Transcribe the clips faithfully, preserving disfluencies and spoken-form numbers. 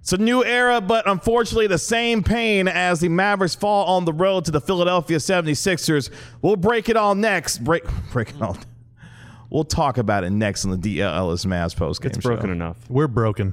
It's a new era, but unfortunately the same pain as the Mavericks fall on the road to the Philadelphia seventy-sixers. We'll break it all next. Break, break it all. We'll talk about it next on the D L Ellis Mavs postgame show. It's broken enough. We're broken.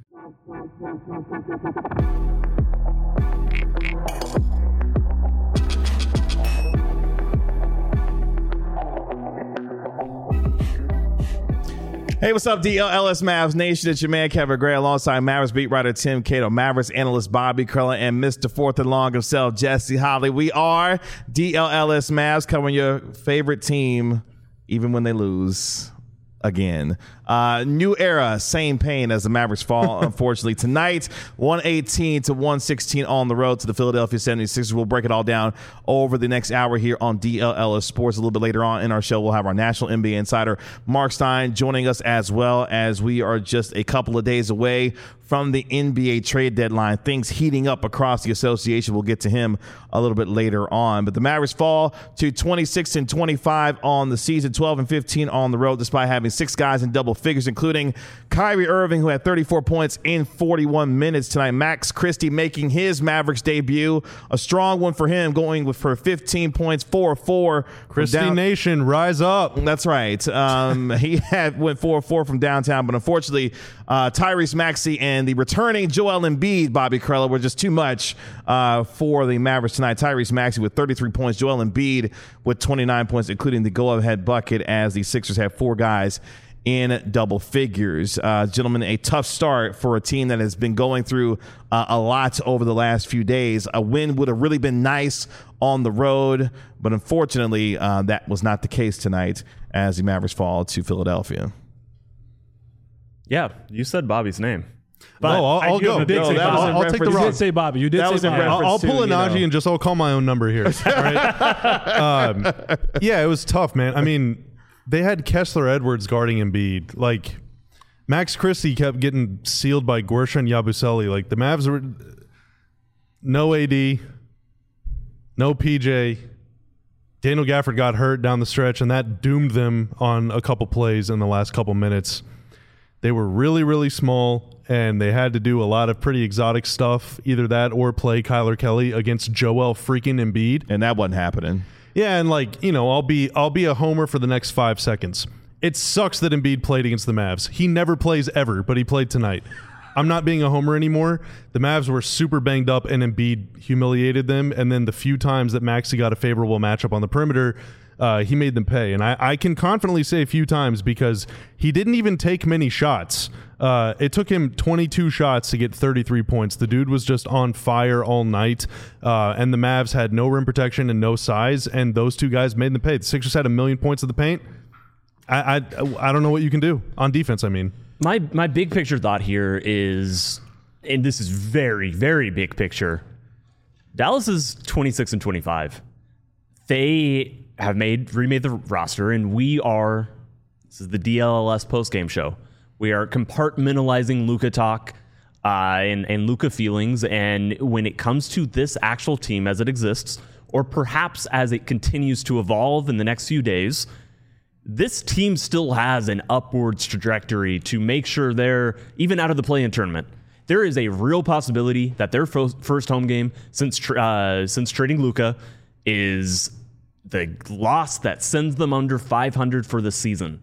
Hey, what's up, D L L S Mavs Nation? It's your man, Kevin Gray, alongside Mavericks beat writer Tim Cato, Mavericks analyst Bobby Curlin, and Mister Fourth and Long himself, Jesse Holly. We are D L L S Mavs, covering your favorite team, even when they lose again. Uh, new era, same pain as the Mavericks fall, unfortunately, tonight. one eighteen to one sixteen on the road to the Philadelphia seventy-sixers. We'll break it all down over the next hour here on D L L S Sports. A little bit later on in our show, we'll have our national N B A insider, Mark Stein, joining us, as well as we are just a couple of days away from the N B A trade deadline. Things heating up across the association. We'll get to him a little bit later on. But the Mavericks fall to twenty-six and twenty-five on the season, twelve and fifteen on the road, despite having six guys in double figures, including Kyrie Irving, who had thirty-four points in forty-one minutes tonight. Max Christie making his Mavericks debut. A strong one for him, going with for fifteen points, four of four. Christie down- Nation, rise up. That's right. Um, he had went four of four from downtown, but unfortunately, uh, Tyrese Maxey and the returning Joel Embiid, Bobby Curler, were just too much uh, for the Mavericks tonight. Tyrese Maxey with thirty-three points, Joel Embiid with twenty-nine points, including the go-ahead bucket, as the Sixers have four guys in double figures. Uh, gentlemen, a tough start for a team that has been going through uh, a lot over the last few days. A win would have really been nice on the road, but unfortunately, uh, that was not the case tonight as the Mavericks fall to Philadelphia. Yeah, you said Bobby's name. But oh, I'll, I'll go. No, that was in I'll, I'll take the reference- rock. You did say Bobby. You did That say was in Bobby. reference- I'll, I'll pull a to, you Najee know. and just I'll call my own number here. All right. um, yeah, it was tough, man. I mean, they had Kessler Edwards guarding Embiid. Like, Max Christie kept getting sealed by Guerschon Yabusele. Like, the Mavs were no A D, no P J. Daniel Gafford got hurt down the stretch, and that doomed them on a couple plays in the last couple minutes. They were really, really small, and they had to do a lot of pretty exotic stuff, either that or play Kyler Kelly against Joel freaking Embiid. And that wasn't happening. Yeah, and like, you know, I'll be I'll be a homer for the next five seconds. It sucks that Embiid played against the Mavs. He never plays ever, but he played tonight. I'm not being a homer anymore. The Mavs were super banged up, and Embiid humiliated them. And then the few times that Maxey got a favorable matchup on the perimeter, uh, he made them pay. And I, I can confidently say a few times because he didn't even take many shots. Uh, it took him twenty-two shots to get thirty-three points. The dude was just on fire all night, uh, and the Mavs had no rim protection and no size, and those two guys made them pay. The Sixers had a million points of the paint. I, I, I don't know what you can do on defense, I mean. My my big picture thought here is, and this is very, very big picture, Dallas is twenty-six and twenty-five. They have made remade the roster, and we are, this is the D L L S postgame show. We are compartmentalizing Luka talk uh, and, and Luka feelings, and when it comes to this actual team as it exists, or perhaps as it continues to evolve in the next few days, this team still has an upwards trajectory to make sure they're even out of the play-in tournament. There is a real possibility that their fo- first home game since tra- uh, since trading Luka is the loss that sends them under five hundred for the season.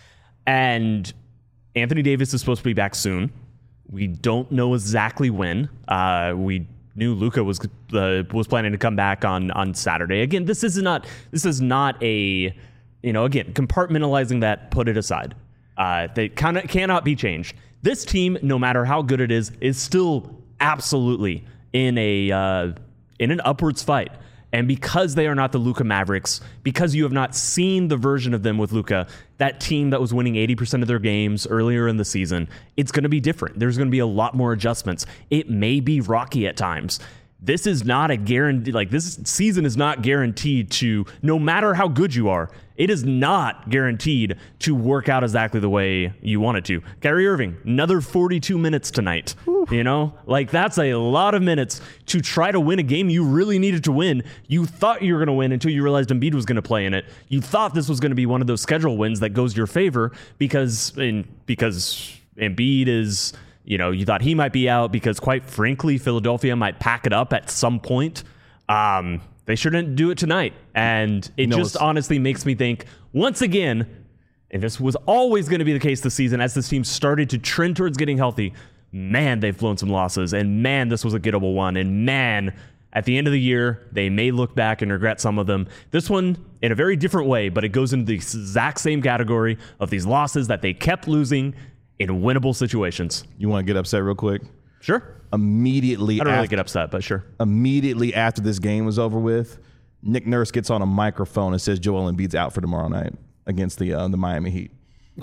And Anthony Davis is supposed to be back soon. We don't know exactly when. Uh, we knew Luka was uh, was planning to come back on on Saturday. Again, this is not this is not a you know again compartmentalizing that. Put it aside. Uh, they kind of cannot be changed. This team, no matter how good it is, is still absolutely in a uh, in an upwards fight. And because they are not the Luka Mavericks, because you have not seen the version of them with Luka, that team that was winning eighty percent of their games earlier in the season, it's going to be different. There's going to be a lot more adjustments. It may be rocky at times. This is not a guarantee, like this season is not guaranteed to, no matter how good you are, it is not guaranteed to work out exactly the way you want it to. Kyrie Irving, another forty-two minutes tonight. Whew. You know, like that's a lot of minutes to try to win a game you really needed to win. You thought you were going to win until you realized Embiid was going to play in it. You thought this was going to be one of those schedule wins that goes your favor because, in, because Embiid is You know, you thought he might be out because, quite frankly, Philadelphia might pack it up at some point. Um, they shouldn't do it tonight. And it No, just it's- honestly makes me think, once again, and this was always going to be the case this season, as this team started to trend towards getting healthy, man, they've blown some losses. And man, this was a gettable one. And man, at the end of the year, they may look back and regret some of them. This one, in a very different way, but it goes into the exact same category of these losses that they kept losing in winnable situations. You want to get upset real quick? Sure. Immediately I don't after, really get upset, but sure. immediately after this game was over with, Nick Nurse gets on a microphone and says Joel Embiid's out for tomorrow night against the uh, the Miami Heat.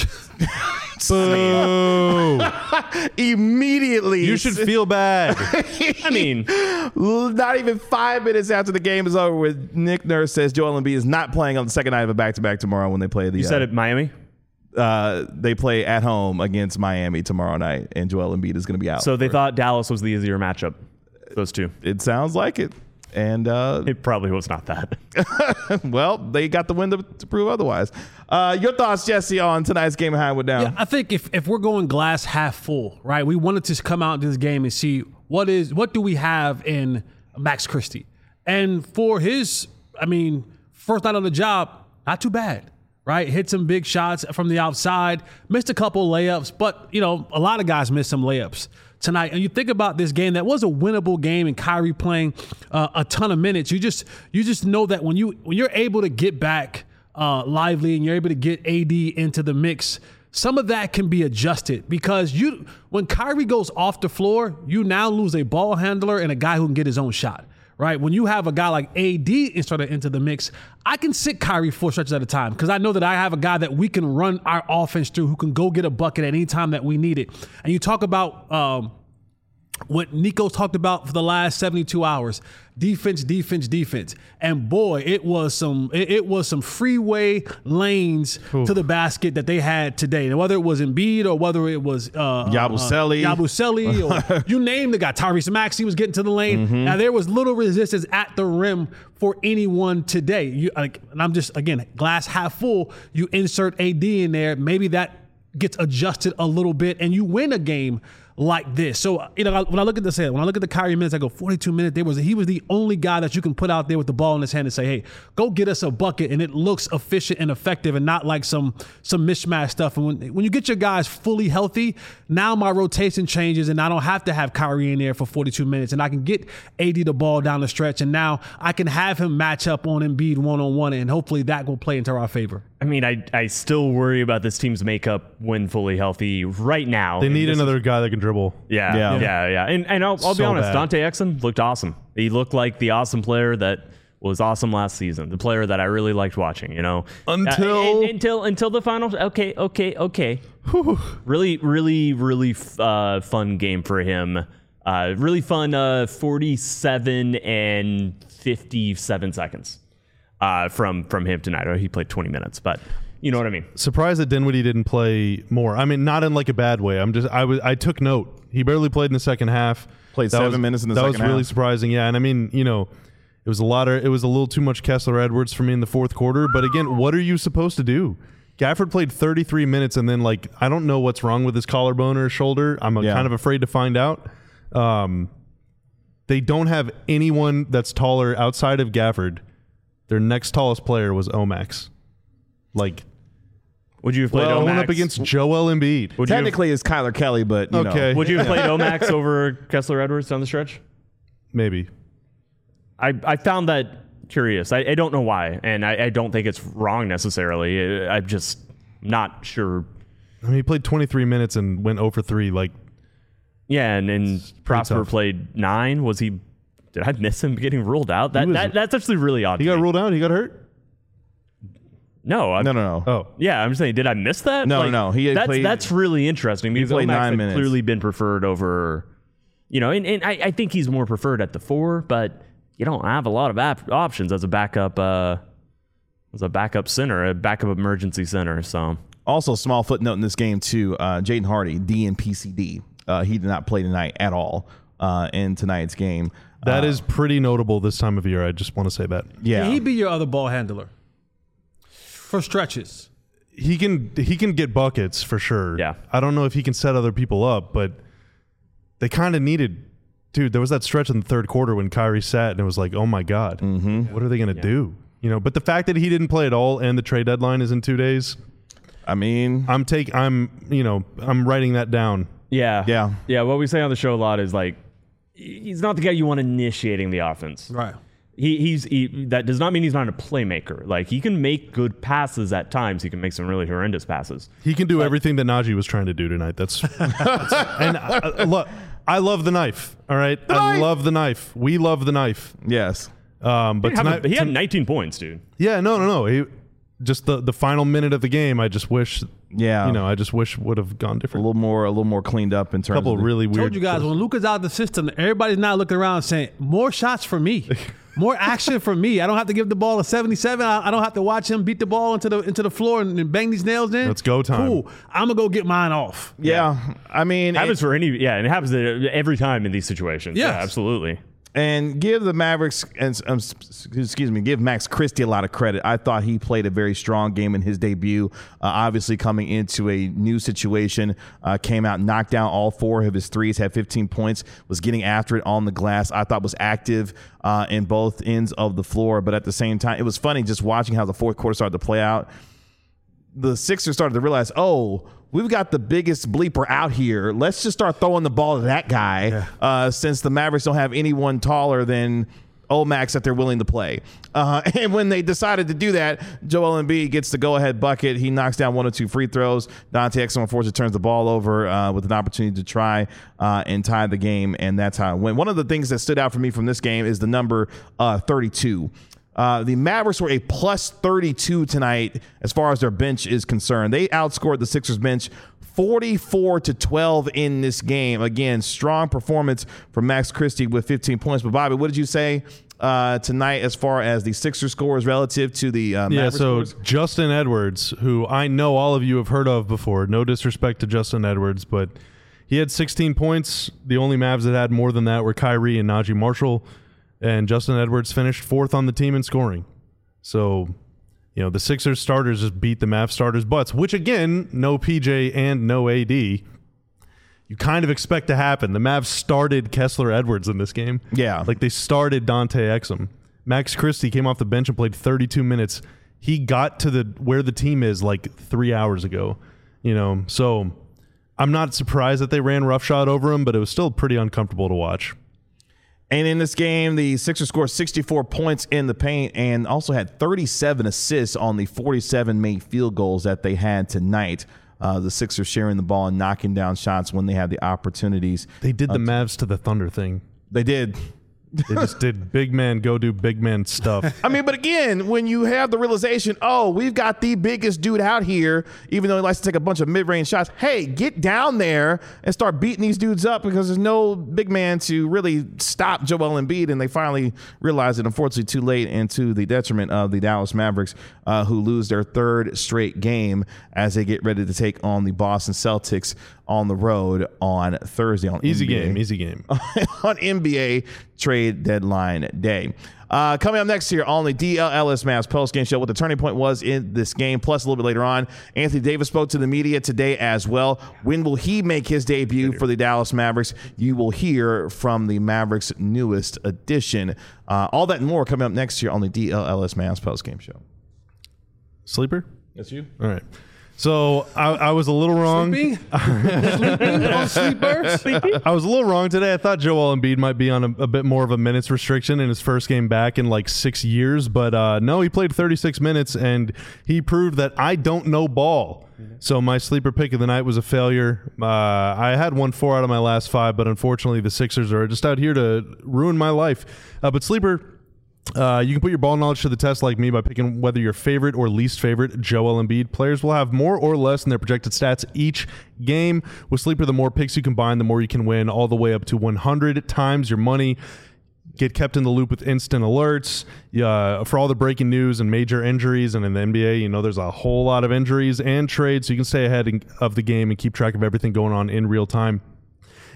Boo. Immediately. You should feel bad. I mean, Not even five minutes after the game is over with, Nick Nurse says Joel Embiid is not playing on the second night of a back-to-back tomorrow when they play the you said it, Miami? uh, they play at home against Miami tomorrow night, and Joel Embiid is going to be out. So they thought Dallas was the easier matchup. Those two. It sounds like it. And uh, It probably was not that. well, they got the win to, to prove otherwise. Uh, your thoughts, Jesse, on tonight's game of Highwood Down? Yeah, I think if, if we're going glass half full, right, we wanted to come out to this game and see what is what do we have in Max Christie. And for his, I mean, first night on the job, not too bad, right? Hit some big shots from the outside, missed a couple layups, but, you know, a lot of guys missed some layups tonight. And you think about this game that was a winnable game, and Kyrie playing uh, a ton of minutes. You just you just know that when you when you're able to get back uh, lively and you're able to get A D into the mix, some of that can be adjusted, because you when Kyrie goes off the floor, you now lose a ball handler and a guy who can get his own shot. Right? When you have a guy like A D inserted into the mix, I can sit Kyrie four stretches at a time because I know that I have a guy that we can run our offense through, who can go get a bucket at any time that we need it. And you talk about um, what Nico talked about for the last seventy-two hours: defense, defense, defense. And boy, it was some it, it was some freeway lanes Oof. to the basket that they had today. And whether it was Embiid or whether it was uh, Yabusele, uh, Yabusele, or you name the guy, Tyrese Maxey was getting to the lane. Mm-hmm. Now there was little resistance at the rim for anyone today. You like, and I'm just again glass half full. You insert A D in there, maybe that gets adjusted a little bit, and you win a game like this. So, you know, when I look at this, when I look at the Kyrie minutes, I go forty-two minutes. There was he was the only guy that you can put out there with the ball in his hand and say, "Hey, go get us a bucket," and it looks efficient and effective, and not like some some mishmash stuff. And when when you get your guys fully healthy, now my rotation changes, and I don't have to have Kyrie in there for forty-two minutes, and I can get A D the ball down the stretch, and now I can have him match up on Embiid one on one, and hopefully that will play into our favor. I mean, I, I still worry about this team's makeup when fully healthy right now. They need this another is, guy that can dribble. Yeah, Yeah. yeah, yeah. yeah. And, and I'll, I'll be So honest, bad. Dante Exum looked awesome. He looked like the awesome player that was awesome last season, the player that I really liked watching, you know. Until- Uh, and- until until the finals. Okay, okay, okay. Really, really, really uh, fun game for him. Uh, really fun uh, forty-seven and fifty-seven seconds uh, from, from him tonight. Or he played twenty minutes, but you know what I mean. Surprised that Dinwiddie didn't play more. I mean, not in like a bad way. I'm just I was I took note. He barely played in the second half. Played That seven was- minutes in the that second was really half. surprising. Yeah, and I mean, you know, it was a lot of it was a little too much Kessler Edwards for me in the fourth quarter. But again, what are you supposed to do? Gafford played thirty-three minutes, and then like I don't know what's wrong with his collarbone or his shoulder. I'm uh, Yeah. kind of afraid to find out. Um, they don't have anyone that's taller outside of Gafford. Their next tallest player was Omax. Like, Would you have played well, Omax? going up against Joel Embiid. Would you have- Technically, it's Kyler Kelly, but you Okay. know. Would you have played Omax over Kessler Edwards down the stretch? Maybe. I, I found that curious. I, I don't know why, and I, I don't think it's wrong necessarily. I- I'm just not sure. I mean, he played twenty-three minutes and went zero for three. Like, Yeah, and, and Prosper tough. played nine. Was he? Did I miss him getting ruled out? That, was- that that's actually really odd. he to got me. ruled out. He got hurt. No, I, No, no, no. Oh, Yeah, I'm saying, did I miss that? No, no, he had that's played- that's really interesting because played Omax nine had minutes. clearly been preferred over, you know, and, and I, I think he's more preferred at the four, but you don't have a lot of ap- options as a backup, uh, as a backup center, a backup emergency center. So Also, small footnote in this game too. Uh, Jaden Hardy, D N P C D. Uh, he did not play tonight at all uh, in tonight's game. that uh, is pretty notable this time of year. I just want to say that yeah. He'd be your other ball handler for stretches. he can he can get buckets for sure. Yeah. I don't know if he can set other people up, but they kind of needed. Dude, there was that stretch in the third quarter when Kyrie sat, and it was like, oh my god, mm-hmm. what are they going to yeah. do? You know, but the fact that he didn't play at all, and the trade deadline is in two days. I mean, I'm take, I'm, you know, I'm writing that down. Yeah, yeah, yeah. What we say on the show a lot is like, he's not the guy you want initiating the offense, right? He, he's he, that does not mean he's not a playmaker. Like, he can make good passes at times. He can make some really horrendous passes. He can do but, everything that Najee was trying to do tonight. That's, that's and uh, look, I love the knife. All right, the I knife. love the knife. We love the knife. Yes, um, but he, tonight, a, he had nineteen points, dude. Yeah, no, no, no. He, just the the final minute of the game, I just wish. Yeah, you know, I just wish would have gone different. A little more, a little more cleaned up in terms. A couple of the, really weird. I told you guys when Luka's out of the system, everybody's now looking around saying more shots for me. More action for me. I don't have to give the ball a seventy-seven. I, I don't have to watch him beat the ball into the into the floor and, and bang these nails in. Let's go time. Cool. I'm gonna go get mine off. Yeah, yeah. I mean, it happens it, for any. Yeah, and it happens every time in these situations. Yes. Yeah, absolutely. And give the Mavericks, and um, excuse me, give Max Christie a lot of credit. I thought he played a very strong game in his debut. Uh, obviously, coming into a new situation, uh, came out, knocked down all four of his threes, had fifteen points, was getting after it on the glass. I thought was active uh, in both ends of the floor, but at the same time, it was funny just watching how the fourth quarter started to play out. The Sixers started to realize, oh, we've got the biggest bleeper out here. Let's just start throwing the ball to that guy yeah. uh, since the Mavericks don't have anyone taller than old Max that they're willing to play. Uh, and when they decided to do that, Joel Embiid gets the go-ahead bucket. He knocks down one or two free throws. Dante Exum, unfortunately, turns the ball over uh, with an opportunity to try uh, and tie the game, and that's how it went. One of the things that stood out for me from this game is the number uh, thirty-two. Uh, the Mavericks were a plus thirty-two tonight as far as their bench is concerned. They outscored the Sixers bench forty-four to twelve in this game. Again, strong performance from Max Christie with fifteen points. But Bobby, what did you say uh, tonight as far as the Sixers scores relative to the uh, Mavericks Yeah, so scores? Justin Edwards, who I know all of you have heard of before. No disrespect to Justin Edwards, but he had sixteen points. The only Mavs that had more than that were Kyrie and Najee Marshall. And Justin Edwards finished fourth on the team in scoring. So, you know, the Sixers starters just beat the Mavs starters' butts, which, again, no P J and no A D. You kind of expect to happen. The Mavs started Kessler Edwards in this game. Yeah. Like, they started Dante Exum. Max Christie came off the bench and played thirty-two minutes. He got to the where the team is like three hours ago. You know, so I'm not surprised that they ran roughshod over him, but it was still pretty uncomfortable to watch. And in this game, the Sixers scored sixty-four points in the paint and also had thirty-seven assists on the forty-seven made field goals that they had tonight. Uh, the Sixers sharing the ball and knocking down shots when they had the opportunities. They did the uh, Mavs to the Thunder thing. They did. They just did big man go do big man stuff. I mean, but again, when you have the realization, oh, we've got the biggest dude out here, even though he likes to take a bunch of mid-range shots, hey, get down there and start beating these dudes up because there's no big man to really stop Joel Embiid. And they finally realized it, unfortunately, too late and to the detriment of the Dallas Mavericks, uh, who lose their third straight game as they get ready to take on the Boston Celtics on the road on Thursday. On easy N B A, game, easy game. on N B A trade deadline day. Uh, coming up next here on the D L L S Mavs post-game show, what the turning point was in this game, plus a little bit later on, Anthony Davis spoke to the media today as well. When will he make his debut for the Dallas Mavericks? You will hear from the Mavericks' newest addition. Uh, all that and more coming up next year on the D L L S Mavs post-game show. Sleeper? That's you. All right. So I, I was a little wrong. Sleeping? Sleeping on sleepers? I was a little wrong today. I thought Joel Embiid might be on a, a bit more of a minutes restriction in his first game back in like six years. But uh, no, he played thirty-six minutes, and he proved that I don't know ball. So my sleeper pick of the night was a failure. Uh, I had won four out of my last five, but unfortunately the Sixers are just out here to ruin my life. Uh, but sleeper... Uh, you can put your ball knowledge to the test like me by picking whether your favorite or least favorite Joel Embiid players will have more or less in their projected stats each game. With Sleeper, the more picks you combine, the more you can win, all the way up to one hundred times your money. Get kept in the loop with instant alerts uh, for all the breaking news and major injuries. And in the N B A, you know, there's a whole lot of injuries and trades, so you can stay ahead of the game and keep track of everything going on in real time.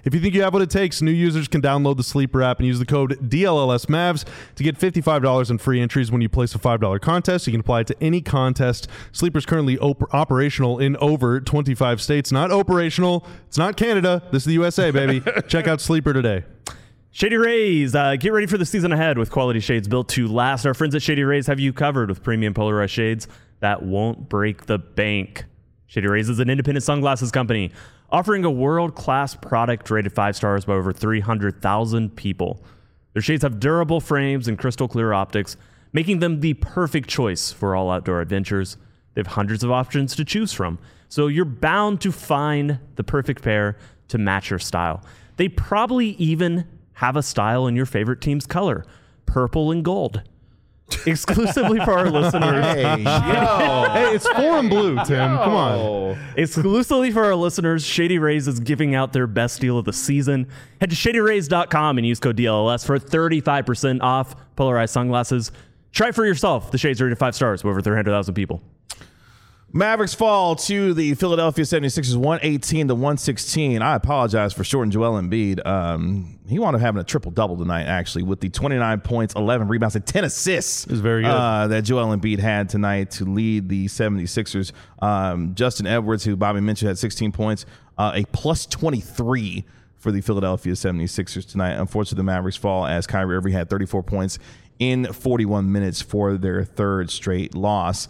If you think you have what it takes, new users can download the Sleeper app and use the code D L L S Mavs to get fifty-five dollars in free entries when you place a five dollar contest. You can apply it to any contest. Sleeper's currently op- operational in over twenty-five states. Not operational. It's not Canada. This is the U S A, baby. Check out Sleeper today. Shady Rays, uh, get ready for the season ahead with quality shades built to last. Our friends at Shady Rays have you covered with premium polarized shades that won't break the bank. Shady Rays is an independent sunglasses company offering a world-class product rated five stars by over three hundred thousand people. Their shades have durable frames and crystal clear optics, making them the perfect choice for all outdoor adventures. They have hundreds of options to choose from, so you're bound to find the perfect pair to match your style. They probably even have a style in your favorite team's color, purple and gold. Exclusively for our listeners. Hey, yo. Hey, it's foreign blue, Tim. Come on. Exclusively for our listeners, Shady Rays is giving out their best deal of the season. Head to shady rays dot com and use code D L L S for thirty-five percent off polarized sunglasses. Try it for yourself. The shades are rated five stars with over three hundred thousand people. Mavericks fall to the Philadelphia seventy-sixers one eighteen to one sixteen. I apologize for shorting Joel Embiid. Um, he wound up having a triple-double tonight, actually, with the twenty-nine points, eleven rebounds, and ten assists. It was very good. Uh, that Joel Embiid had tonight to lead the seventy-sixers. Um, Justin Edwards, who Bobby mentioned, had sixteen points, uh, a plus twenty-three for the Philadelphia seventy-sixers tonight. Unfortunately, the Mavericks fall as Kyrie Irving had thirty-four points in forty-one minutes for their third straight loss.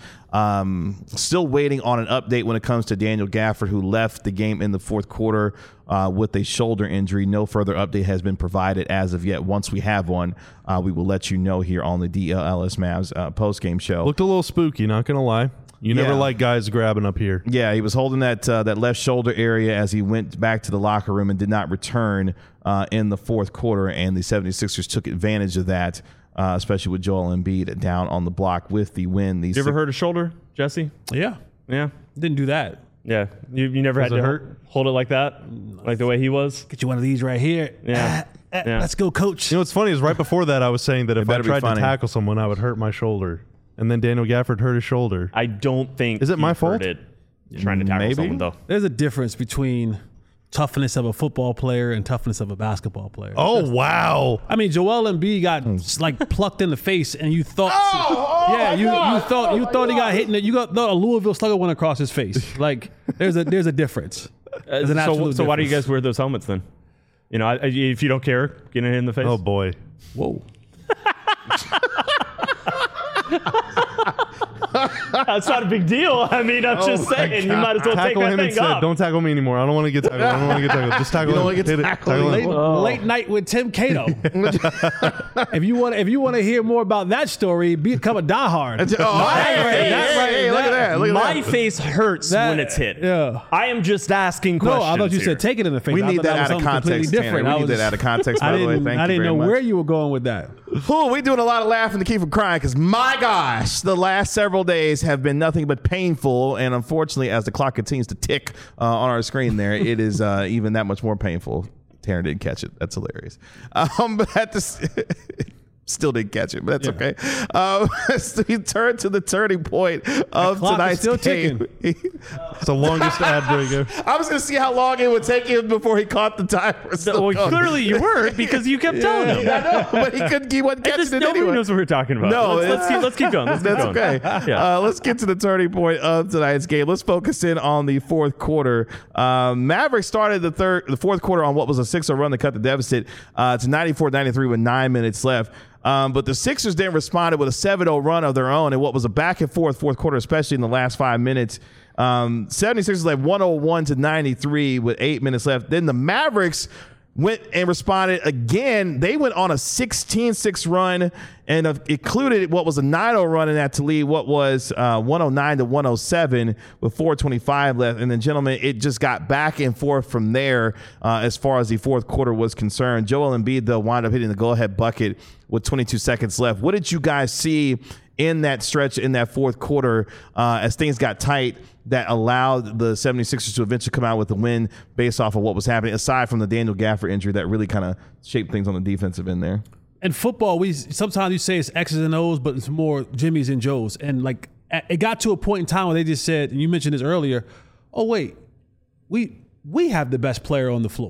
Um, still waiting on an update when it comes to Daniel Gafford, who left the game in the fourth quarter uh, with a shoulder injury. No further update has been provided as of yet. Once we have one, uh, we will let you know here on the D L L S Mavs uh, post-game show. Looked a little spooky, not going to lie. You never Yeah. like guys grabbing up here. Yeah, he was holding that uh, that left shoulder area as he went back to the locker room and did not return uh, in the fourth quarter, and the seventy-sixers took advantage of that, uh, especially with Joel Embiid down on the block with the win. The You ever hurt a shoulder, Jesse? Yeah. Yeah. Didn't do that. Yeah. You, you never Does had it to hurt? hold it like that? Like the way he was? Get you one of these right here. Yeah. Ah, ah, Yeah. Let's go, coach. You know what's funny is right before that I was saying that if I better be tried to funny. tackle someone, I would hurt my shoulder. And then Daniel Gafford hurt his shoulder. I don't think Is it he my hurt fault? It trying to tackle Maybe. someone, though. There's a difference between toughness of a football player and toughness of a basketball player. Oh, wow. I mean, Joel Embiid got like plucked in the face, and you thought, yeah, you, you thought you thought he got hit in it. You got thought a Louisville Slugger went across his face. Like there's a there's a difference. There's an so, absolute so why do you difference. gues wear those helmets then? You know, I, I- if you don't care, getting hit in the face. Oh, boy. Whoa. That's not a big deal. I mean, I'm just saying, you might as well take Tackle that him thing instead. off. Don't tackle me anymore. I don't want to get tackled. I don't want to get tackled. Just tackle You don't him. wanna get Hit it. tackled? Tackle Late, him. late night with Tim Cato. if you want, if you want to hear more about that story, become a diehard. Oh, hey, right, hey, that hey, right, hey, look at that. Look at My that. face hurts That- when it's hit. yeah. I am just asking No, questions. I thought you here. said take it in the face. We I need thought that was out of something context, completely Tanner. different. We I need was- that out of context, by I the way. didn't, Thank I you didn't very know much. where you were going with that. Ooh, we doing a lot of laughing to keep from crying because, my gosh, the last several days have been nothing but painful. And unfortunately, as the clock continues to tick uh, on our screen there, it is uh, even that much more painful. Tanner didn't catch it. That's hilarious. Um, but at this... Still didn't catch it, but that's okay. Um, so we turn to the turning point of clock is tonight's still game. It's the longest ad break. I was going to see how long it would take him before he caught the timer. Still Well, going. clearly you weren't because you kept telling him. I know, but he couldn't. He wasn't I catching just, it nobody anyway. knows what we're talking about. No, let's, it's- let's keep let's keep going. Let's keep That's going. okay. Yeah. Uh, let's get to the turning point of tonight's game. Let's focus in on the fourth quarter. Um, Mavericks started the third, the fourth quarter on what was a six oh run to cut the deficit uh, to ninety-four ninety-three with nine minutes left. Um, but the Sixers then responded with a seven oh run of their own in what was a back and forth fourth quarter, especially in the last five minutes. Um, seventy-sixers led one oh one to ninety-three with eight minutes left. Then the Mavericks went and responded again. They went on a sixteen six run and uh, included what was a nine oh run in that to lead what was uh, one oh nine to one oh seven with four twenty-five left. And then, gentlemen, it just got back and forth from there uh, as far as the fourth quarter was concerned. Joel Embiid, though, wound up hitting the go-ahead bucket with twenty-two seconds left. What did you guys see in that stretch in that fourth quarter uh, as things got tight that allowed the seventy-sixers to eventually come out with the win based off of what was happening, aside from the Daniel Gafford injury that really kind of shaped things on the defensive end there? In football, we sometimes you say it's X's and O's, but it's more Jimmy's and Joe's. And like it got to a point in time where they just said, and you mentioned this earlier, oh wait, we we have the best player on the floor.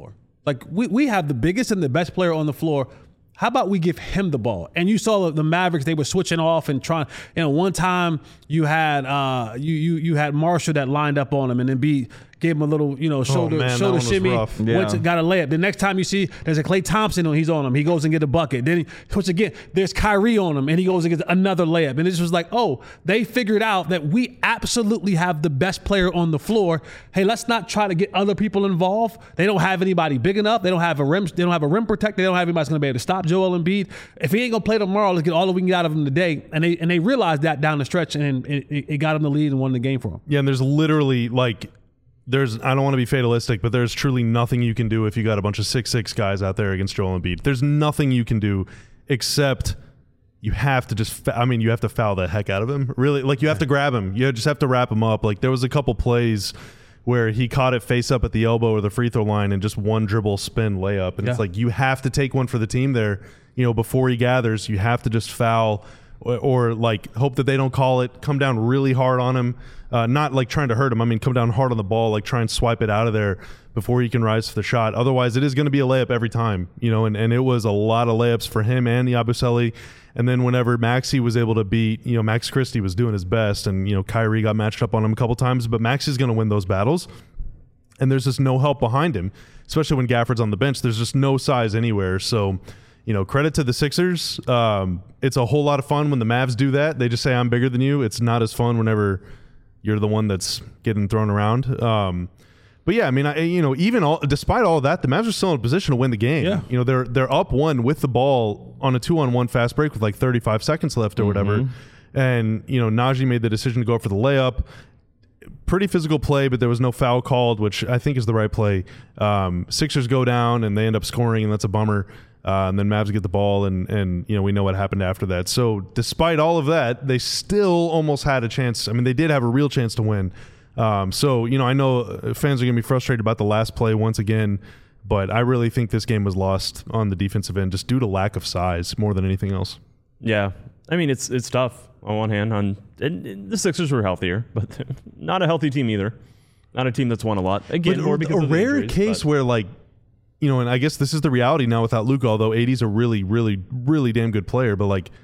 Like we, we have the biggest and the best player on the floor. How about we give him the ball? And you saw the Mavericks; they were switching off and trying. You know, one time you had uh, you you you had Marshall that lined up on him, and then Embiid gave him a little, you know, shoulder oh, man, shoulder that one shimmy. was rough. Went Yeah. to, got a layup. The next time you see there's a Klay Thompson on, he's on him. He goes and get a bucket. Then he puts again. There's Kyrie on him, and he goes and gets another layup. And it just was like, oh, they figured out that we absolutely have the best player on the floor. Hey, let's not try to get other people involved. They don't have anybody big enough. They don't have a rim. They don't have a rim protector. They don't have anybody that's going to be able to stop Joel Embiid. If he ain't gonna play tomorrow, let's get all that we can get out of him today. And they and they realized that down the stretch, and it, it got him the lead and won the game for him. Yeah, and there's literally like there's I don't want to be fatalistic, but there's truly nothing you can do if you got a bunch of six six guys out there against Joel Embiid. There's nothing you can do except you have to just I mean you have to foul the heck out of him. Really, like you have to grab him. You just have to wrap him up. Like there was a couple plays where he caught it face up at the elbow or the free throw line and just one dribble spin layup. And Yeah. it's like you have to take one for the team there. You know, before he gathers, you have to just foul or, or like hope that they don't call it, come down really hard on him. Uh, not like trying to hurt him. I mean, come down hard on the ball, like try and swipe it out of there before he can rise to the shot. Otherwise, it is going to be a layup every time, you know, and, and it was a lot of layups for him and the Yabusele. And then whenever Maxey was able to beat, you know, Max Christie was doing his best and, you know, Kyrie got matched up on him a couple times, but Maxey's going to win those battles. And there's just no help behind him, especially when Gafford's on the bench. There's just no size anywhere. So, you know, credit to the Sixers. Um, it's a whole lot of fun when the Mavs do that. They just say, I'm bigger than you. It's not as fun whenever you're the one that's getting thrown around. Um, but yeah, I mean, I, you know, even all, despite all that, the Mavs are still in a position to win the game. Yeah. You know, they're they're up one with the ball on a two-on-one fast break with like thirty-five seconds left or whatever. And, you know, Najee made the decision to go for the layup. Pretty physical play, but there was no foul called, which I think is the right play. Um, Sixers go down and they end up scoring, and that's a bummer. Uh, and then Mavs get the ball, and and you know we know what happened after that. So despite all of that, they still almost had a chance. I mean, they did have a real chance to win. Um, so you know, I know fans are going to be frustrated about the last play once again, but I really think this game was lost on the defensive end just due to lack of size more than anything else. Yeah, I mean it's it's tough on one hand. On and, and the Sixers were healthier, but not a healthy team either. Not a team that's won a lot again. But More because a of the rare injuries, case but- where like. You know, and I guess this is the reality now without Luka, although A D's a really, really, really damn good player. But, like,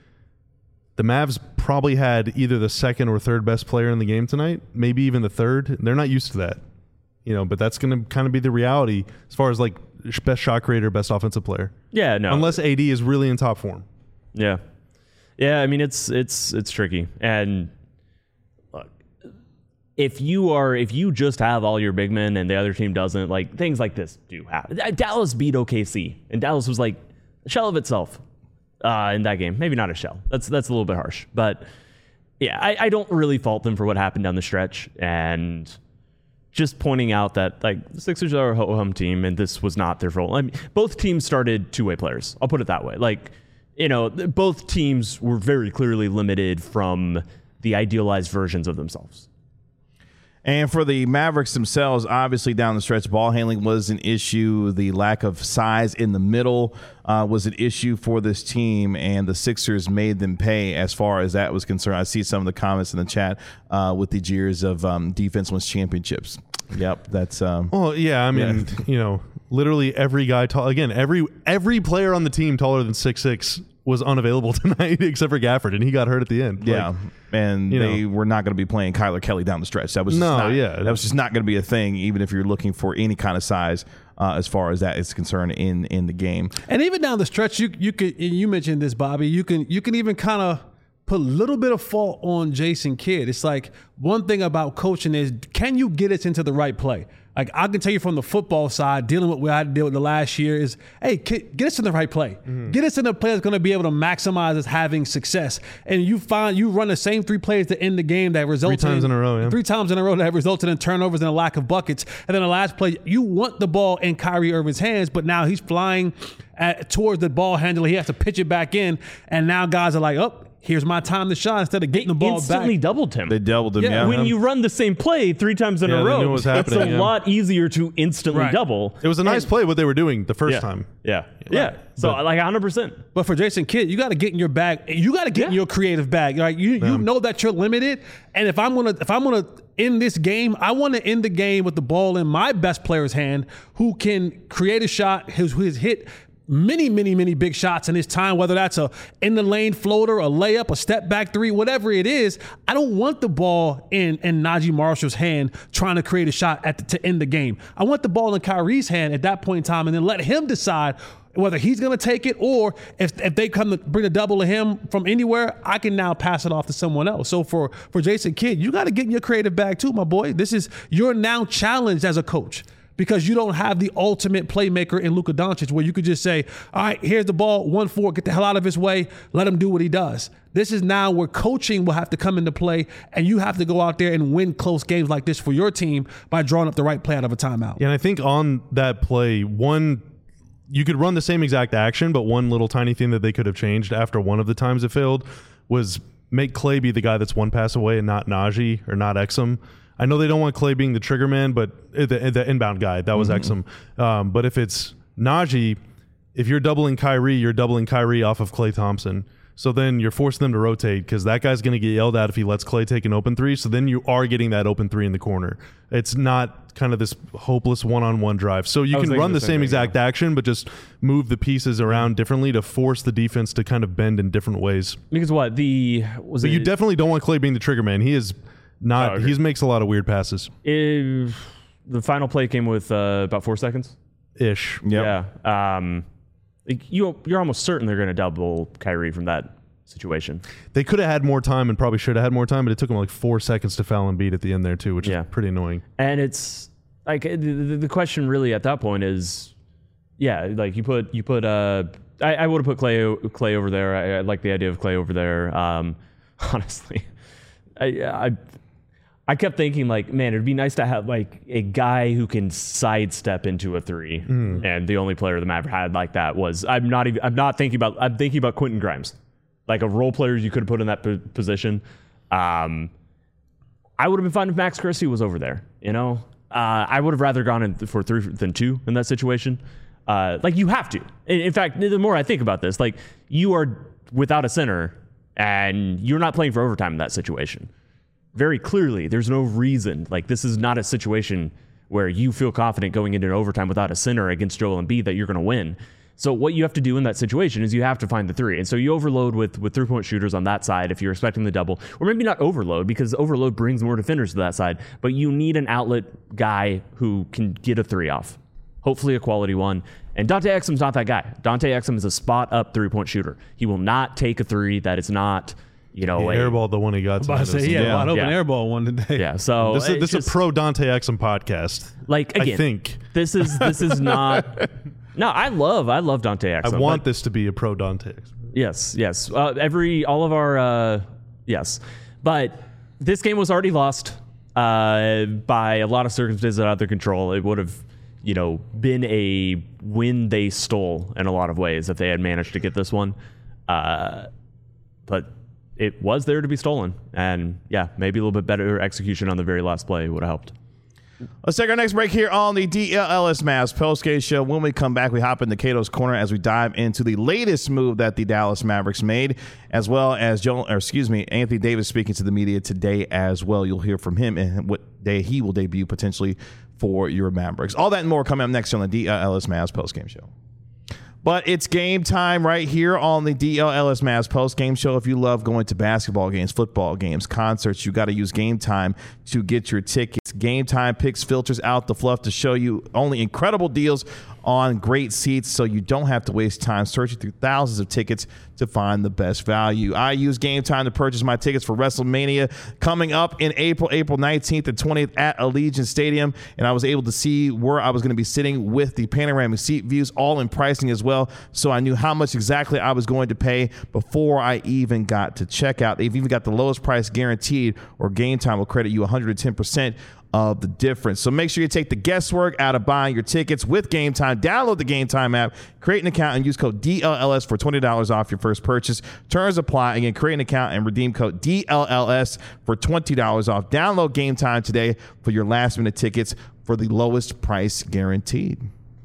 the Mavs probably had either the second or third best player in the game tonight, maybe even the third. They're not used to that. You know, but that's going to kind of be the reality as far as, like, best shot creator, best offensive player. Yeah, no. Unless A D is really in top form. Yeah. Yeah, I mean, it's it's it's tricky. And look, if you are if you just have all your big men and the other team doesn't, like things like this do happen. Dallas beat O K C, and Dallas was like a shell of itself uh, in that game. Maybe not a shell. That's that's a little bit harsh, but yeah, I, I don't really fault them for what happened down the stretch, and just pointing out that like the Sixers are a ho-hum team, and this was not their role. I mean, both teams started two-way players. I'll put it that way. Like, you know, both teams were very clearly limited from the idealized versions of themselves. And for the Mavericks themselves, obviously down the stretch, ball handling was an issue. The lack of size in the middle uh, was an issue for this team, and the Sixers made them pay as far as that was concerned. I see some of the comments in the chat uh, with the jeers of um, defense wins championships. Yep, that's um, Well, yeah, I mean, Yeah. you know, literally every guy tall again, every every player on the team taller than six six was unavailable tonight except for Gafford, and he got hurt at the end. yeah. Like, and you they know. were not going to be playing Kyler Kelly down the stretch. That was just No, not, yeah. that was just not going to be a thing, even if you're looking for any kind of size uh, as far as that is concerned in in the game. And even down the stretch, you you could and you mentioned this, Bobby. You can you can even kind of put a little bit of fault on Jason Kidd. It's like one thing about coaching is, can you get us into the right play? Like I can tell you from the football side, dealing with what I had to deal with the last year is, hey, kid, get us in the right play. Mm-hmm. Get us in a play that's going to be able to maximize us having success. And you find you run the same three plays to end the game that resulted times in a row, yeah. Three times in a row that resulted in turnovers and a lack of buckets. And then the last play, you want the ball in Kyrie Irving's hands, but now he's flying at, towards the ball handler. He has to pitch it back in, and now guys are like, oh, here's my time to shine instead of getting the ball Instantly back. doubled him. They doubled him. Yeah, Yeah, when you run the same play three times in Yeah, a they row, knew what was it's happening, a yeah. lot easier to instantly Right. double. It was a nice And- play what they were doing the first yeah, time. Yeah, yeah. So like one hundred percent. But for Jason Kidd, you got to get in your bag. You got to get in Yeah. your creative bag. Like you, you know that you're limited. And if I'm gonna, if I'm gonna in this game, I want to end the game with the ball in my best player's hand who can create a shot, who has hit many, many, many big shots in his time, whether that's a in the lane floater, a layup, a step back three, whatever it is. I don't want the ball in, in Najee Marshall's hand trying to create a shot at the, to end the game. I want the ball in Kyrie's hand at that point in time and then let him decide whether he's going to take it or if, if they come to bring a double to him from anywhere, I can now pass it off to someone else. So for, for Jason Kidd, you got to get in your creative bag too, my boy. This is, you're now challenged as a coach, because you don't have the ultimate playmaker in Luka Doncic where you could just say, all right, here's the ball, one four, get the hell out of his way, let him do what he does. This is now where coaching will have to come into play, and you have to go out there and win close games like this for your team by drawing up the right play out of a timeout. Yeah, and I think on that play, one, you could run the same exact action, but one little tiny thing that they could have changed after one of the times it failed was make Klay be the guy that's one pass away and not Najee or not Exum. I know they don't want Klay being the trigger man, but the, the inbound guy, that was mm-hmm. Exum. Um, but if it's Najee, if you're doubling Kyrie, you're doubling Kyrie off of Klay Thompson. So then you're forcing them to rotate because that guy's going to get yelled at if he lets Klay take an open three. So then you are getting that open three in the corner. It's not kind of this hopeless one-on-one drive. So you can run the, the same, same exact thing, yeah. action, but just move the pieces around differently to force the defense to kind of bend in different ways. Because what? the was But it, you definitely don't want Klay being the trigger man. He is... Not, oh, okay. He makes a lot of weird passes. If the final play came with uh, about four seconds. Ish. Yep. Yeah. Um, you, you're almost certain they're going to double Kyrie from that situation. They could have had more time and probably should have had more time, but it took them like four seconds to foul and beat at the end there too, which yeah. is pretty annoying. And it's like the, the question really at that point is, yeah, like you put you put. Uh, I, I would have put Klay Klay over there. I, I like the idea of Klay over there. Um, honestly, I. I I kept thinking, like, man, it'd be nice to have, like, a guy who can sidestep into a three. Mm. And the only player the Mavs had like that was, I'm not even, I'm not thinking about, I'm thinking about Quentin Grimes. Like, a role player you could have put in that p- position. Um, I would have been fine if Max Christie was over there, you know? Uh, I would have rather gone in for three than two in that situation. Uh, like, you have to. In, in fact, the more I think about this, like, you are without a center, and you're not playing for overtime in that situation. Very clearly, there's no reason. Like, this is not a situation where you feel confident going into an overtime without a center against Joel Embiid that you're going to win. So what you have to do in that situation is you have to find the three. And so you overload with, with three-point shooters on that side if you're expecting the double. Or maybe not overload, because overload brings more defenders to that side. But you need an outlet guy who can get a three off. Hopefully a quality one. And Dante Exum's not that guy. Dante Exum is a spot-up three-point shooter. He will not take a three that is not... You know, he airballed the one he got. I say he had a wide open airball one today. Yeah, so this is, this is a pro Dante Exum podcast. Like again, I think this is this is not. No, I love I love Dante Exum. I want this to be a pro Dante Exum. Yes, yes. Uh, every all of our uh, yes, but this game was already lost uh, by a lot of circumstances out of their control. It would have, you know, been a win they stole in a lot of ways if they had managed to get this one, uh, but. It was there to be stolen. And yeah, maybe a little bit better execution on the very last play would have helped. Let's take our next break here on the D L L S Mavs postgame show. When we come back, we hop into Cato's Corner as we dive into the latest move that the Dallas Mavericks made, as well as Joel, or excuse me, Anthony Davis speaking to the media today as well. You'll hear from him and what day he will debut potentially for your Mavericks. All that and more coming up next on the D L L S Mavs postgame show. But it's game time right here on the D L L S Mavs post-game show. If you love going to basketball games, football games, concerts, you got to use Game Time to get your tickets. Game Time picks, filters out the fluff to show you only incredible deals on great seats, so you don't have to waste time searching through thousands of tickets to find the best value. I use Game Time to purchase my tickets for WrestleMania coming up in April, April nineteenth and twentieth at Allegiant Stadium, and I was able to see where I was going to be sitting with the panoramic seat views, all in pricing as well, so I knew how much exactly I was going to pay before I even got to checkout. They've even got the lowest price guaranteed, or Game Time will credit you one hundred ten percent of the difference. So make sure you take the guesswork out of buying your tickets with Game Time. Download the Game Time app, create an account, and use code D L L S for twenty dollars off your first purchase. Terms apply. Again, create an account and redeem code D L L S for twenty dollars off. Download Game Time today for your last-minute tickets for the lowest price guaranteed.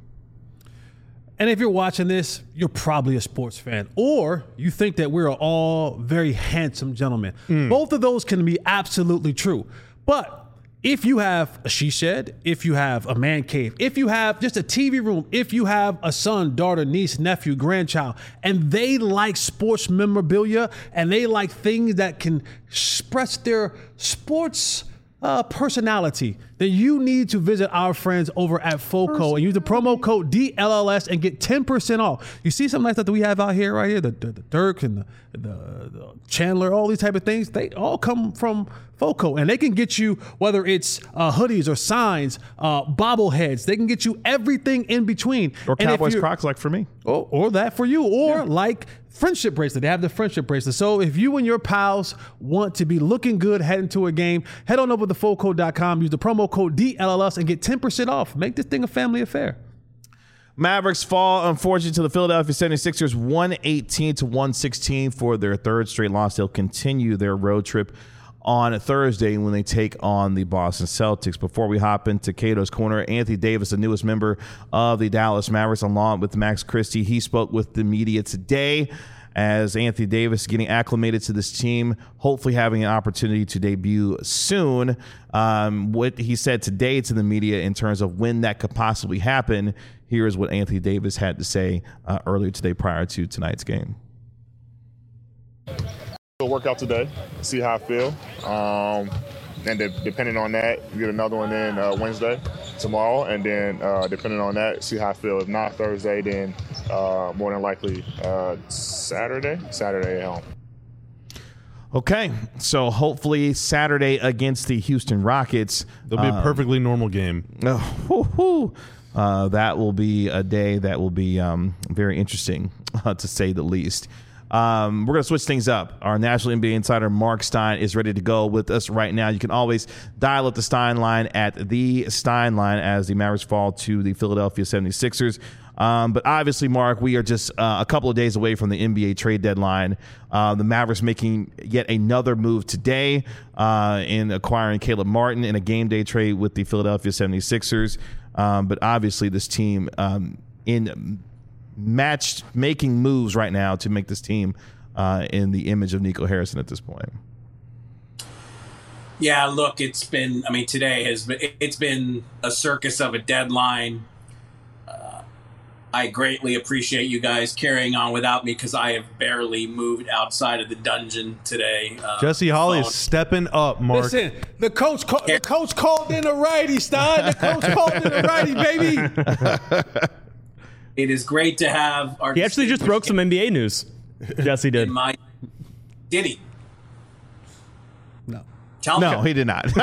And if you're watching this, you're probably a sports fan, or you think that we're all very handsome gentlemen. Mm. Both of those can be absolutely true. But if you have a she shed, if you have a man cave, if you have just a T V room, if you have a son, daughter, niece, nephew, grandchild, and they like sports memorabilia and they like things that can express their sports uh, personality, then you need to visit our friends over at FOCO and use the promo code D L L S and get ten percent off. You see some nice stuff that we have out here, right here, the, the, the Dirk and the, the, the Chandler, all these type of things, they all come from FOCO, and they can get you, whether it's uh, hoodies or signs, uh, bobbleheads, they can get you everything in between. Or Cowboys Crocs like for me. Or, or that for you, or yeah. like friendship bracelet. They have the friendship bracelet. So if you and your pals want to be looking good heading to a game, head on over to foco dot com, use the promo code D L L S and get ten percent off. Make this thing a family affair. Mavericks fall, unfortunately, to the Philadelphia seventy-sixers, one eighteen to one sixteen for their third straight loss. They'll continue their road trip on Thursday when they take on the Boston Celtics. Before we hop into Cato's Corner, Anthony Davis, the newest member of the Dallas Mavericks, along with Max Christie, he spoke with the media today as Anthony Davis is getting acclimated to this team, hopefully having an opportunity to debut soon. Um, what he said today to the media in terms of when that could possibly happen, here is what Anthony Davis had to say uh, earlier today prior to tonight's game. We'll work out today, see how I feel. Um, and de- depending on that, get another one in uh, Wednesday, tomorrow. And then uh, depending on that, see how I feel. If not Thursday, then uh, more than likely uh, Saturday, Saturday at home. Okay, so hopefully Saturday against the Houston Rockets. It'll be um, a perfectly normal game. Oh, whoo, whoo. Uh, that will be a day that will be um, very interesting, uh, to say the least. Um, we're going to switch things up. Our National N B A insider, Mark Stein, is ready to go with us right now. You can always dial up the Stein line at the Stein line as the Mavericks fall to the Philadelphia seventy-sixers. Um, but obviously, Mark, we are just uh, a couple of days away from the N B A trade deadline. Uh, the Mavericks making yet another move today uh, in acquiring Caleb Martin in a game day trade with the Philadelphia seventy-sixers. Um, but obviously, this team um, in matched making moves right now to make this team uh, in the image of Nico Harrison at this point. Yeah, look, it's been, I mean, today has been, it's been a circus of a deadline. Uh, I greatly appreciate you guys carrying on without me because I have barely moved outside of the dungeon today. Uh, Jesse Holley phone. is stepping up, Mark. Listen, the coach, call, the coach called in a righty, Stein. The coach called in a righty, baby. It is great to have our. He actually just broke some N B A news. Jesse did. In my, did he? No. Tell No, him. he did not.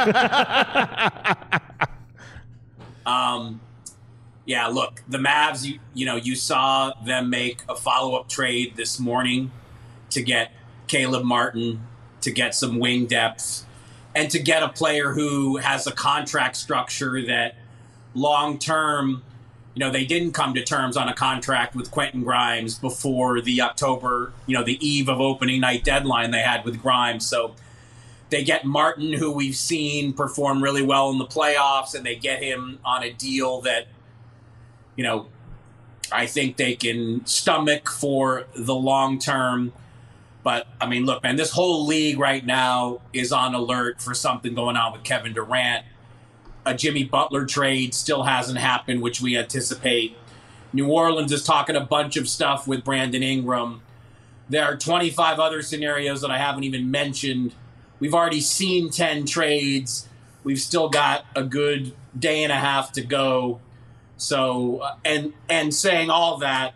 um, yeah. Look, the Mavs. You you know you saw them make a follow up trade this morning to get Caleb Martin, to get some wing depth, and to get a player who has a contract structure that long term. You know, they didn't come to terms on a contract with Quentin Grimes before the October, you know, the eve of opening night deadline they had with Grimes. So they get Martin, who we've seen perform really well in the playoffs, and they get him on a deal that, you know, I think they can stomach for the long term. But, I mean, look, man, this whole league right now is on alert for something going on with Kevin Durant. A Jimmy Butler trade still hasn't happened, which we anticipate. New Orleans is talking a bunch of stuff with Brandon Ingram. There are twenty-five other scenarios that I haven't even mentioned. We've already seen ten trades. We've still got a good day and a half to go. So, and and saying all that,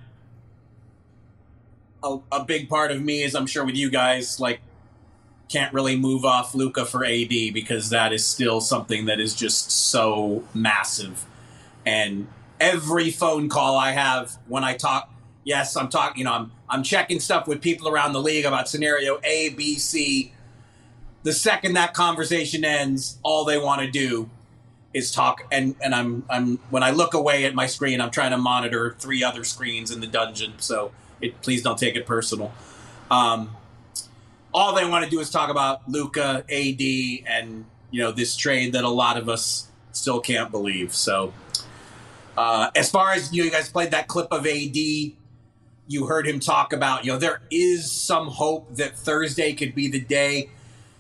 a, a big part of me is, I'm sure with you guys, like, can't really move off Luka for A D because that is still something that is just so massive. And every phone call I have when I talk, yes, I'm talking, you know, I'm I'm checking stuff with people around the league about scenario A, B, C. The second that conversation ends, all they want to do is talk. And, and I'm I'm when I look away at my screen, I'm trying to monitor three other screens in the dungeon. So it, please don't take it personal. Um, All they want to do is talk about Luka, A D, and, you know, this trade that a lot of us still can't believe. So uh, as far as, you know, you guys played that clip of A D, you heard him talk about, you know, there is some hope that Thursday could be the day.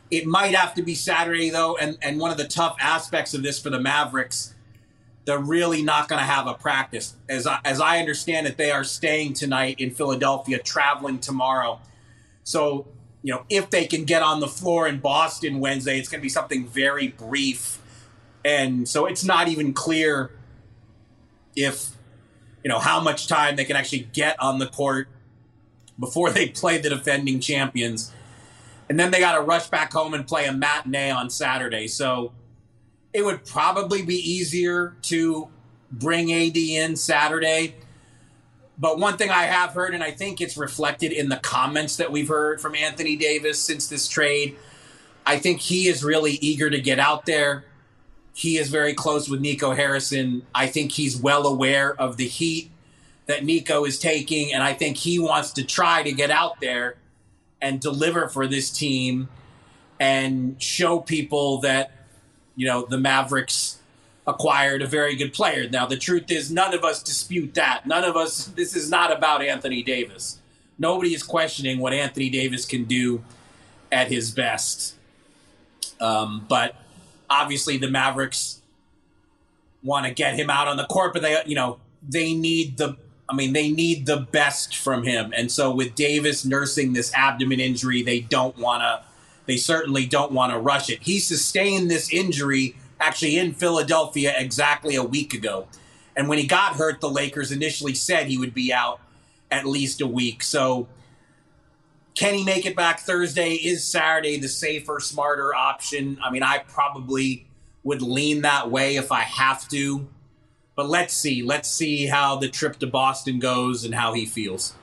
It might have to be Saturday, though, and, and one of the tough aspects of this for the Mavericks, they're really not going to have a practice. As I, as I understand it, they are staying tonight in Philadelphia, traveling tomorrow. So, you know, if they can get on the floor in Boston Wednesday, it's going to be something very brief. And so it's not even clear if, you know, how much time they can actually get on the court before they play the defending champions. And then they got to rush back home and play a matinee on Saturday. So it would probably be easier to bring A D in Saturday. But one thing I have heard, and I think it's reflected in the comments that we've heard from Anthony Davis since this trade, I think he is really eager to get out there. He is very close with Nico Harrison. I think he's well aware of the heat that Nico is taking, and I think he wants to try to get out there and deliver for this team and show people that, you know, the Mavericks acquired a very good player. Now, the truth is, none of us dispute that. None of us, this is not about Anthony Davis. Nobody is questioning what Anthony Davis can do at his best. Um, but obviously the Mavericks want to get him out on the court, but they, you know, they need the, I mean, they need the best from him. And so with Davis nursing this abdomen injury, they don't want to, they certainly don't want to rush it. He sustained this injury actually in Philadelphia exactly a week ago. And when he got hurt, the Lakers initially said he would be out at least a week. So can he make it back Thursday? Is Saturday the safer, smarter option? I mean, I probably would lean that way if I have to. But let's see. Let's see how the trip to Boston goes and how he feels.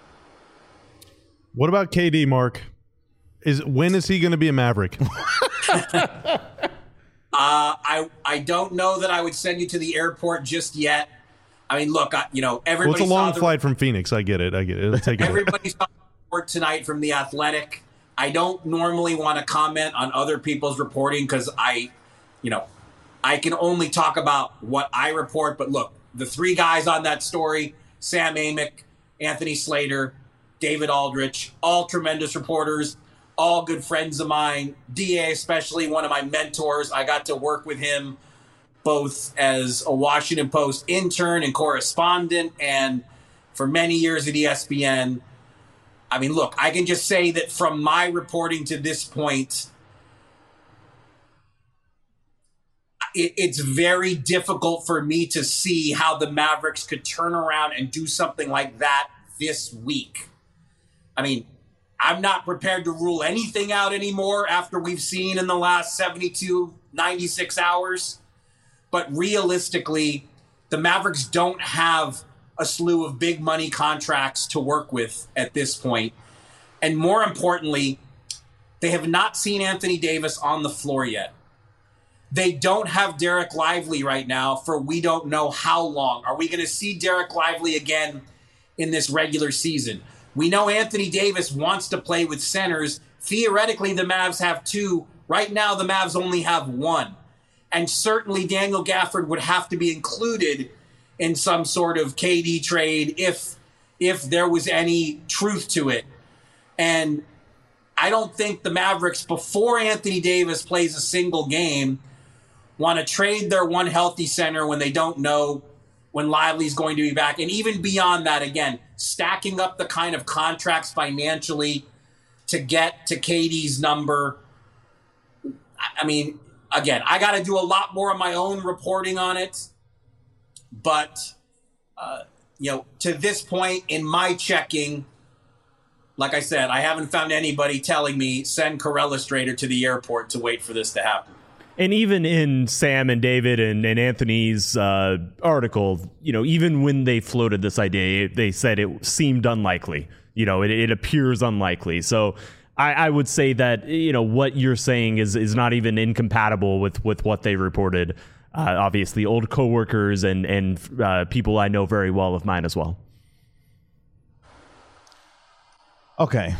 What about K D, Mark? Is when is he going to be a Maverick? uh, I I don't know that I would send you to the airport just yet. I mean, look, I, you know, everybody. Well, it's a long saw the, flight from Phoenix. I get it. I get it. It'll take everybody saw the report tonight from The Athletic. I don't normally want to comment on other people's reporting because I, you know, I can only talk about what I report. But look, the three guys on that story, Sam Amick, Anthony Slater, David Aldrich, all tremendous reporters, all good friends of mine. D A especially, one of my mentors. I got to work with him both as a Washington Post intern and correspondent and for many years at E S P N. I mean, look, I can just say that from my reporting to this point, it, it's very difficult for me to see how the Mavericks could turn around and do something like that this week. I mean, I'm not prepared to rule anything out anymore after we've seen in the last seventy-two, ninety-six hours. But realistically, the Mavericks don't have a slew of big money contracts to work with at this point. And more importantly, they have not seen Anthony Davis on the floor yet. They don't have Derek Lively right now for we don't know how long. Are we going to see Derek Lively again in this regular season? We know Anthony Davis wants to play with centers. Theoretically, the Mavs have two. Right now, the Mavs only have one. And certainly Daniel Gafford would have to be included in some sort of K D trade if if there was any truth to it. And I don't think the Mavericks, before Anthony Davis plays a single game, want to trade their one healthy center when they don't know when Lively's going to be back. And even beyond that, again, stacking up the kind of contracts financially to get to K D's number. I mean, again, I got to do a lot more of my own reporting on it. But, uh, you know, to this point in my checking, like I said, I haven't found anybody telling me send Corella Strader to the airport to wait for this to happen. And even in Sam and David and, and Anthony's uh, article, you know, even when they floated this idea, they said it seemed unlikely. You know, it, it appears unlikely. So I, I would say that, you know, what you're saying is is not even incompatible with, with what they reported. Uh, obviously, old coworkers and and uh, people I know very well of mine as well. Okay.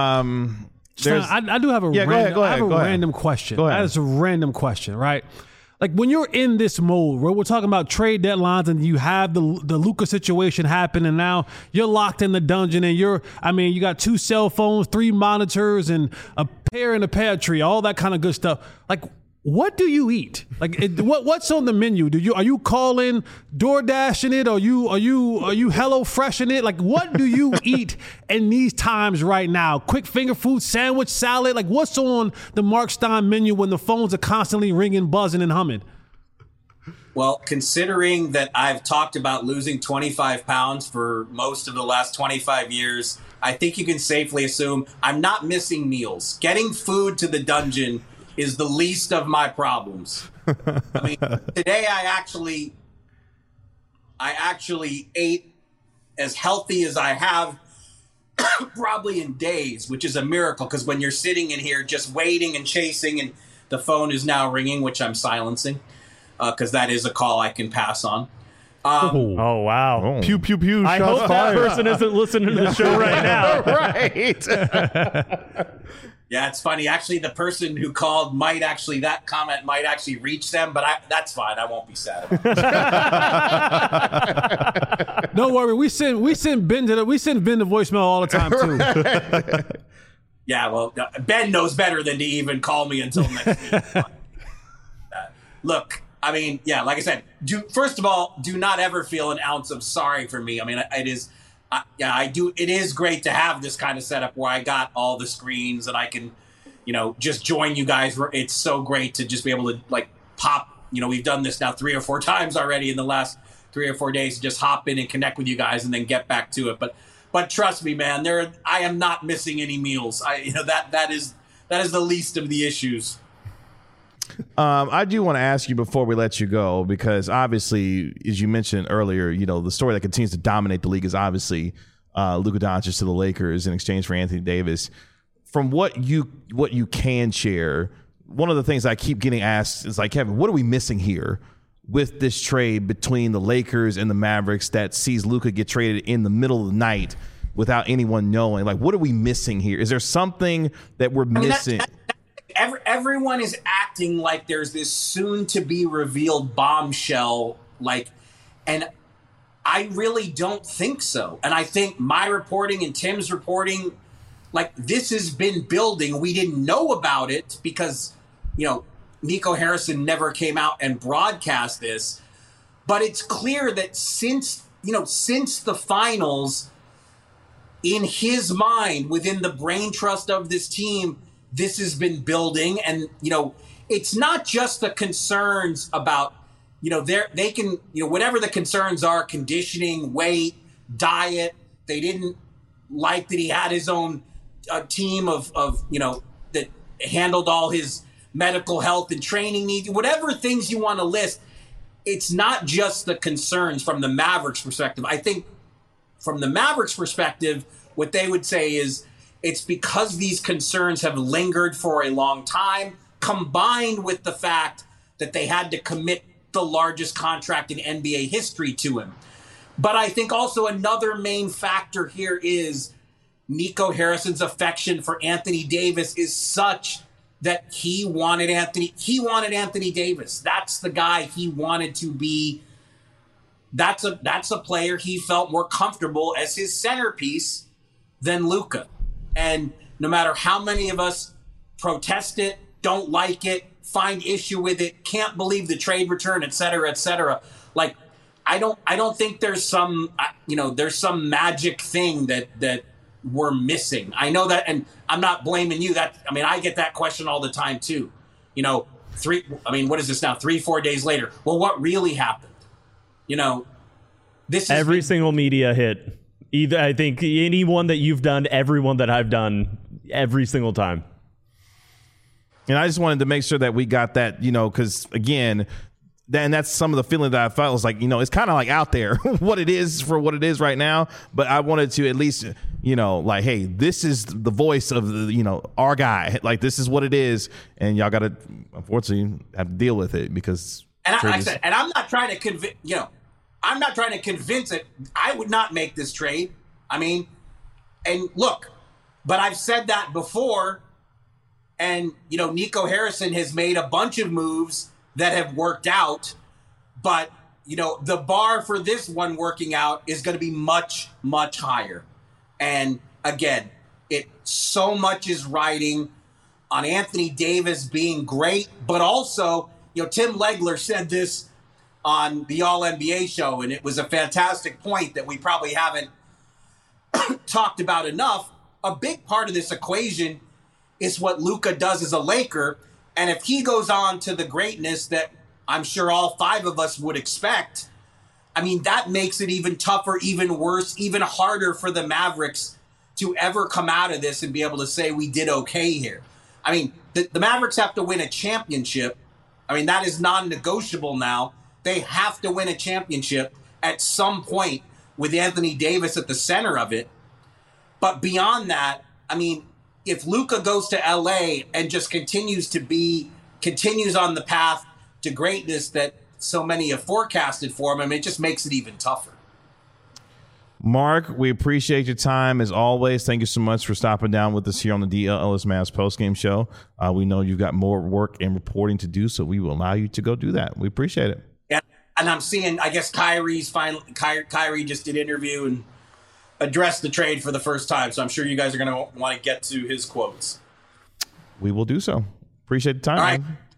Um, Son, I, I do have a yeah, random, go ahead, go I ahead, have a go ahead. random question. Go ahead. That is a random question, right? like when you're in this mode where we're talking about trade deadlines and you have the the Luka situation happen and now you're locked in the dungeon and you're, I mean, you got two cell phones, three monitors and a pear in the pear tree, all that kind of good stuff. Like, what do you eat? Like, it, what what's on the menu? Do you are you calling DoorDashing it? Are you are you are you Hello Freshing it? Like, what do you eat in these times right now? Quick finger food, sandwich, salad. Like, what's on the Mark Stein menu when the phones are constantly ringing, buzzing, and humming? Well, considering that I've talked about losing twenty-five pounds for most of the last twenty-five years, I think you can safely assume I'm not missing meals. Getting food to the dungeon is the least of my problems. I mean, today I actually, I actually ate as healthy as I have probably in days, which is a miracle because when you're sitting in here just waiting and chasing and the phone is now ringing, which I'm silencing because uh, that is a call I can pass on. Um, oh, wow. Oh. Pew, pew, pew. I hope that person isn't listening to the show right now. Right. Yeah, it's funny. Actually, the person who called might actually, that comment might actually reach them, but I, that's fine. I won't be sad about it. Don't worry. We send we send Ben to the, we send Ben the voicemail all the time too. Yeah, well, Ben knows better than to even call me until next week. uh, look, I mean, yeah, like I said, do first of all, do not ever feel an ounce of sorry for me. I mean, it is. I, yeah, I do. It is great to have this kind of setup where I got all the screens and I can, you know, just join you guys. It's so great to just be able to like pop. You know, we've done this now three or four times already in the last three or four days. Just hop in and connect with you guys and then get back to it. But, but trust me, man, there. I am not missing any meals. I, you know, that that is that is the least of the issues. Um, I do want to ask you before we let you go, because obviously, as you mentioned earlier, you know, the story that continues to dominate the league is obviously uh, Luka Doncic to the Lakers in exchange for Anthony Davis. From what you what you can share, one of the things I keep getting asked is like, Kevin, what are we missing here with this trade between the Lakers and the Mavericks that sees Luka get traded in the middle of the night without anyone knowing? Like, what are we missing here? Is there something that we're I mean, missing? That, that, Every, everyone is acting like there's this soon-to-be-revealed bombshell, like, and I really don't think so. And I think my reporting and Tim's reporting, like, this has been building. We didn't know about it because, you know, Nico Harrison never came out and broadcast this. But it's clear that since, you know, since the finals, in his mind, within the brain trust of this team, this has been building. And, you know, it's not just the concerns about, you know, they're, they can, you know, whatever the concerns are, conditioning, weight, diet. They didn't like that he had his own uh, team of, of, you know, that handled all his medical health and training needs, whatever things you want to list. It's not just the concerns from the Mavericks perspective. I think from the Mavericks perspective, what they would say is, it's because these concerns have lingered for a long time, combined with the fact that they had to commit the largest contract in N B A history to him. But I think also another main factor here is Nico Harrison's affection for Anthony Davis is such that he wanted Anthony, he wanted Anthony Davis. That's the guy he wanted to be. That's a, that's a player he felt more comfortable as his centerpiece than Luka. And no matter how many of us protest it, don't like it, find issue with it, can't believe the trade return, et cetera, et cetera. Like, I don't, I don't think there's some, you know, there's some magic thing that that we're missing. I know that, and I'm not blaming you. That, I mean, I get that question all the time too. You know, three. I mean, what is this now? Three, four days later. Well, what really happened? You know, this is every been, single media hit. Either I think anyone that you've done, everyone that I've done, every single time. And I just wanted to make sure that we got that, you know, because again, then that's some of the feeling that I felt was like, you know, it's kind of like out there what it is for what it is right now. But I wanted to at least, you know, like, hey, this is the voice of the, you know, our guy. Like, this is what it is. And y'all got to, unfortunately, have to deal with it because. And I, I said, and I'm not trying to convince, you know, I'm not trying to convince it. I would not make this trade. I mean, and look, but I've said that before. And, you know, Nico Harrison has made a bunch of moves that have worked out, but you know, the bar for this one working out is going to be much, much higher. And again, it so much is riding on Anthony Davis being great, but also, you know, Tim Legler said this on the All N B A show, and it was a fantastic point that we probably haven't talked about enough. A big part of this equation is what Luka does as a Laker, and if he goes on to the greatness that I'm sure all five of us would expect, I mean, that makes it even tougher, even worse, even harder for the Mavericks to ever come out of this and be able to say we did okay here. I mean, the, the Mavericks have to win a championship. I mean, that is non-negotiable now. They have to win a championship at some point with Anthony Davis at the center of it. But beyond that, I mean, if Luka goes to L A and just continues to be, continues on the path to greatness that so many have forecasted for him, I mean, it just makes it even tougher. Mark, we appreciate your time as always. Thank you so much for stopping down with us here on the D L Ellis Mavs postgame show. Uh, we know you've got more work and reporting to do, so we will allow you to go do that. We appreciate it. Yeah, and I'm seeing, I guess Kyrie's finally, Ky- Kyrie just did an interview and addressed the trade for the first time, so I'm sure you guys are going to want to get to his quotes. We will do so. Appreciate the time. All right. Man.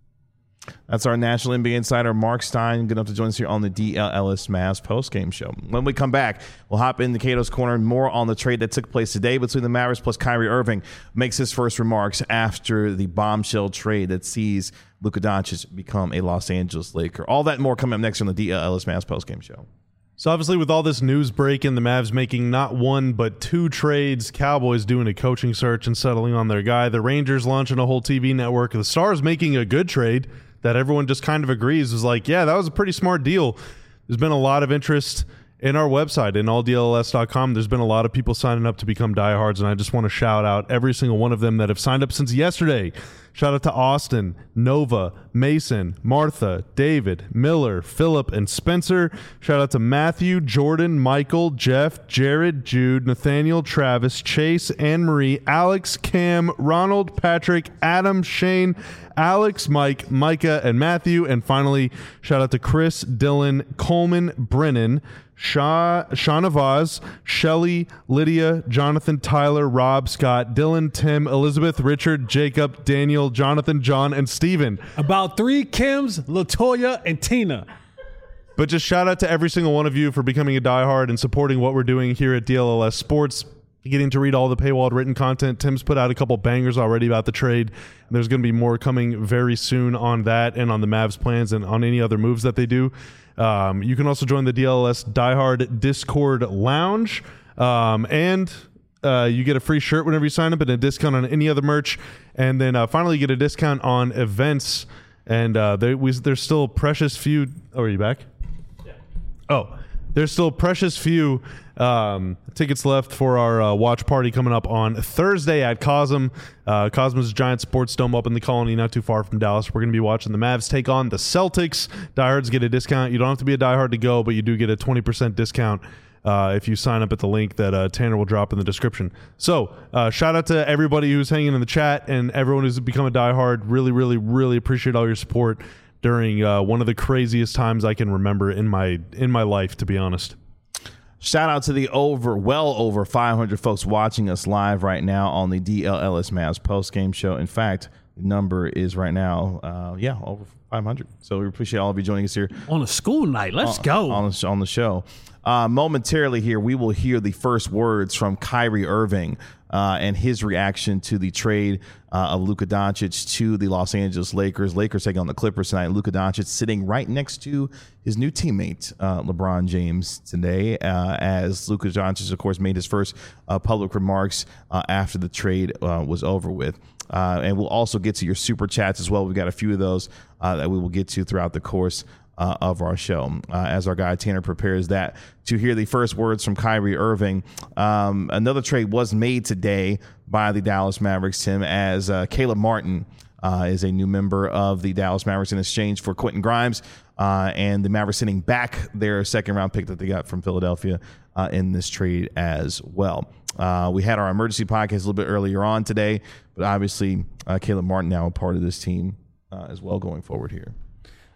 That's our National N B A insider, Mark Stein, good enough to join us here on the D L Ellis Mavs postgame show. When we come back, we'll hop into Cato's Corner and more on the trade that took place today between the Mavericks plus Kyrie Irving. Makes his first remarks after the bombshell trade that sees Luka Doncic become a Los Angeles Laker. All that and more coming up next on the D L Ellis Mavs postgame show. So obviously with all this news breaking, the Mavs making not one but two trades, Cowboys doing a coaching search and settling on their guy, the Rangers launching a whole T V network, the Stars making a good trade that everyone just kind of agrees was like, yeah, that was a pretty smart deal. There's been a lot of interest in our website, in all D L S dot com. There's been a lot of people signing up to become diehards, and I just want to shout out every single one of them that have signed up since yesterday. Shout out to Austin, Nova, Mason, Martha, David, Miller, Philip, and Spencer. Shout out to Matthew, Jordan, Michael, Jeff, Jared, Jude, Nathaniel, Travis, Chase, Anne-Marie, Alex, Cam, Ronald, Patrick, Adam, Shane, Alex, Mike, Micah, and Matthew. And finally, shout out to Chris, Dylan, Coleman, Brennan, Sha, Shauna Vaz, Shelly, Lydia, Jonathan, Tyler, Rob, Scott, Dylan, Tim, Elizabeth, Richard, Jacob, Daniel, Jonathan, John, and Steven. About three Kims, LaToya, and Tina. But just shout out to every single one of you for becoming a diehard and supporting what we're doing here at D L L S Sports. Getting to read all the paywalled written content. Tim's put out a couple bangers already about the trade. And there's going to be more coming very soon on that and on the Mavs plans and on any other moves that they do. Um, you can also join the D L L S Diehard Discord Lounge. Um, and uh, you get a free shirt whenever you sign up and a discount on any other merch. And then uh, finally, you get a discount on events. And uh, there, we, there's still precious few. Oh, are you back? Yeah. Oh, there's still precious few um, tickets left for our uh, watch party coming up on Thursday at Cosm. Uh, Cosmos Giant Sports Dome up in the Colony, not too far from Dallas. We're going to be watching the Mavs take on the Celtics. Diehards get a discount. You don't have to be a diehard to go, but you do get a twenty percent discount uh, if you sign up at the link that uh, Tanner will drop in the description. So uh, shout out to everybody who's hanging in the chat and everyone who's become a diehard. Really, really, really appreciate all your support during uh, one of the craziest times I can remember in my in my life, to be honest. Shout out to the over, well over five hundred folks watching us live right now on the D L L S Mavs postgame show. In fact, the number is right now, uh, yeah, over five hundred. So we appreciate all of you joining us here On a school night. Let's on, go. On the, on the show. Uh, momentarily here, we will hear the first words from Kyrie Irving uh, and his reaction to the trade uh, of Luka Doncic to the Los Angeles Lakers. Lakers taking on the Clippers tonight. Luka Doncic sitting right next to his new teammate, uh, LeBron James, today, uh, as Luka Doncic, of course, made his first uh, public remarks uh, after the trade uh, was over with. Uh, and we'll also get to your super chats as well. We've got a few of those uh, that we will get to throughout the course Uh, of our show uh, as our guy Tanner prepares that to hear the first words from Kyrie Irving. Um, another trade was made today by the Dallas Mavericks, Tim, as uh, Caleb Martin uh, is a new member of the Dallas Mavericks in exchange for Quentin Grimes, uh, and the Mavericks sending back their second round pick that they got from Philadelphia uh, in this trade as well. Uh, we had our emergency podcast a little bit earlier on today, but obviously uh, Caleb Martin now a part of this team uh, as well going forward here.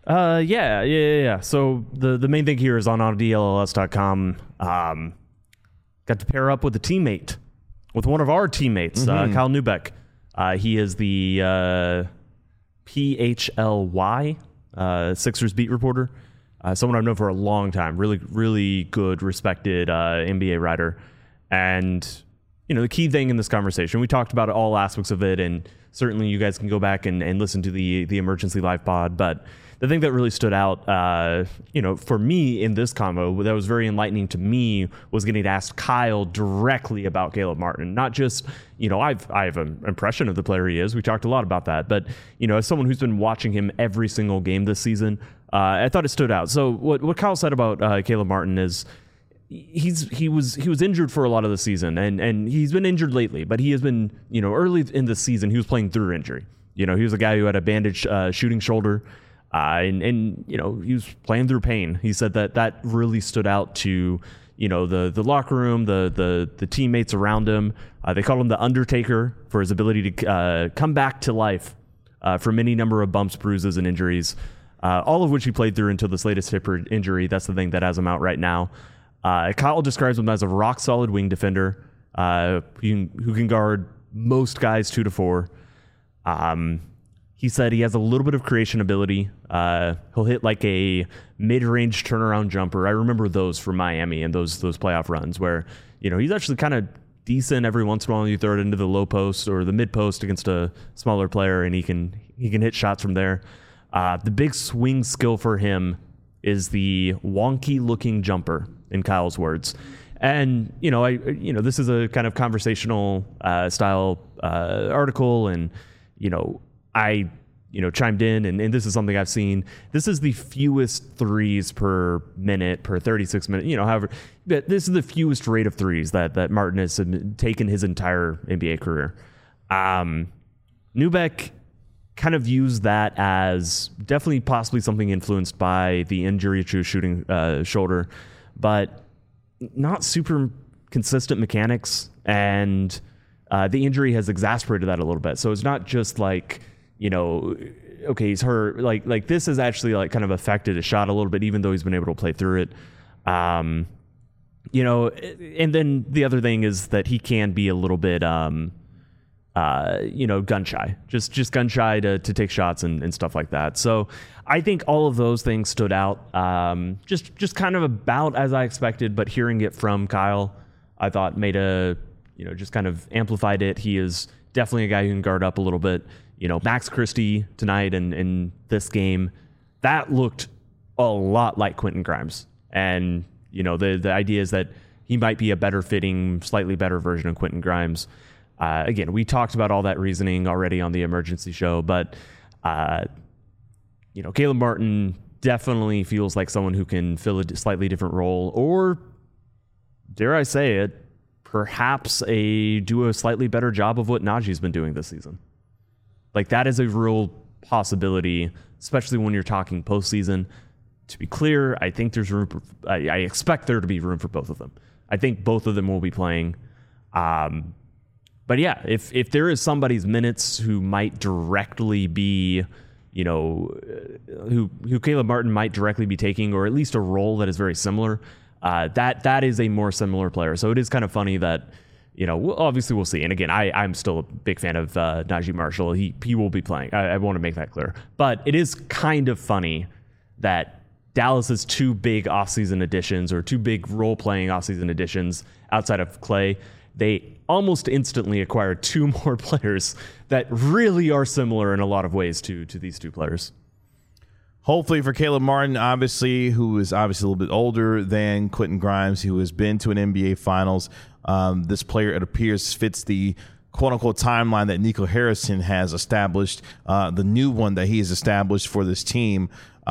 Uh, yeah, yeah, yeah, yeah. So the, the main thing here is on on D L L S dot com. Um, got to pair up with a teammate, with one of our teammates, mm-hmm. uh, Kyle Neubeck. Uh, he is the uh, P H L Y uh, Sixers beat reporter. Uh, someone I've known for a long time. Really, really good, respected uh, N B A writer. And, you know, the key thing in this conversation, we talked about all aspects of it, and certainly you guys can go back and, and listen to the the Emergency Live pod. But the thing that really stood out, uh, you know, for me in this convo, that was very enlightening to me, was getting to ask Kyle directly about Caleb Martin. Not just, you know, I've I have an impression of the player he is. We talked a lot about that. But, you know, as someone who's been watching him every single game this season, uh, I thought it stood out. So what what Kyle said about uh, Caleb Martin is, he's he was he was injured for a lot of the season, and and he's been injured lately, but he has been, you know, early in the season he was playing through injury. You know, he was a guy who had a bandaged uh, shooting shoulder, uh, and and you know, he was playing through pain. He said that that really stood out to, you know, the the locker room, the the the teammates around him. Uh, they called him the Undertaker for his ability to uh, come back to life uh, from any number of bumps, bruises, and injuries, uh, all of which he played through until this latest hip injury. That's the thing that has him out right now. Uh, Kyle describes him as a rock-solid wing defender uh, who, can, who can guard most guys two to four. Um, he said he has a little bit of creation ability. Uh, he'll hit like a mid-range turnaround jumper. I remember those from Miami and those those playoff runs where, you know, he's actually kind of decent every once in a while. You throw it into the low post or the mid post against a smaller player, and he can he can hit shots from there. Uh, the big swing skill for him is the wonky-looking jumper, in Kyle's words. And, you know, I, you know, this is a kind of conversational uh, style uh, article, and, you know, I, you know, chimed in, and, and this is something I've seen. This is the fewest threes per minute, per thirty-six minutes, you know, however, but this is the fewest rate of threes that, that Martin has taken his entire N B A career. Um, Neubeck kind of used that as definitely possibly something influenced by the injury to shooting uh, shoulder, but not super consistent mechanics, and uh, the injury has exasperated that a little bit. So it's not just like, you know, okay, he's hurt. Like like this has actually like kind of affected his shot a little bit, even though he's been able to play through it. Um, you know, and then the other thing is that he can be a little bit, um, uh, you know, gun shy, just just gun shy to to take shots and, and stuff like that. So I think all of those things stood out, um, just just kind of about as I expected. But hearing it from Kyle, I thought made a, you know, just kind of amplified it. He is definitely a guy who can guard up a little bit. You know, Max Christie tonight and in this game, that looked a lot like Quentin Grimes. And, you know, the the idea is that he might be a better fitting, slightly better version of Quentin Grimes. Uh, again, we talked about all that reasoning already on the emergency show, but, uh, you know, Caleb Martin definitely feels like someone who can fill a slightly different role, or, dare I say it, perhaps a do a slightly better job of what Najee's been doing this season. Like, that is a real possibility, especially when you're talking postseason. To be clear, I think there's room for, I, I expect there to be room for both of them. I think both of them will be playing. Um, but yeah, if if there is somebody's minutes who might directly be, you know, who who Caleb Martin might directly be taking, or at least a role that is very similar, uh, that that is a more similar player. So it is kind of funny that, you know, obviously we'll see. And again, I, I'm still a big fan of uh, Naji Marshall. He he will be playing. I, I want to make that clear. But it is kind of funny that Dallas's two big offseason additions, or two big role-playing offseason additions outside of Clay, they almost instantly acquired two more players that really are similar in a lot of ways to to these two players. Hopefully for Caleb Martin, obviously, who is obviously a little bit older than Quentin Grimes, who has been to an N B A Finals. Um, this player, it appears, fits the quote-unquote timeline that Nico Harrison has established, uh, the new one that he has established for this team.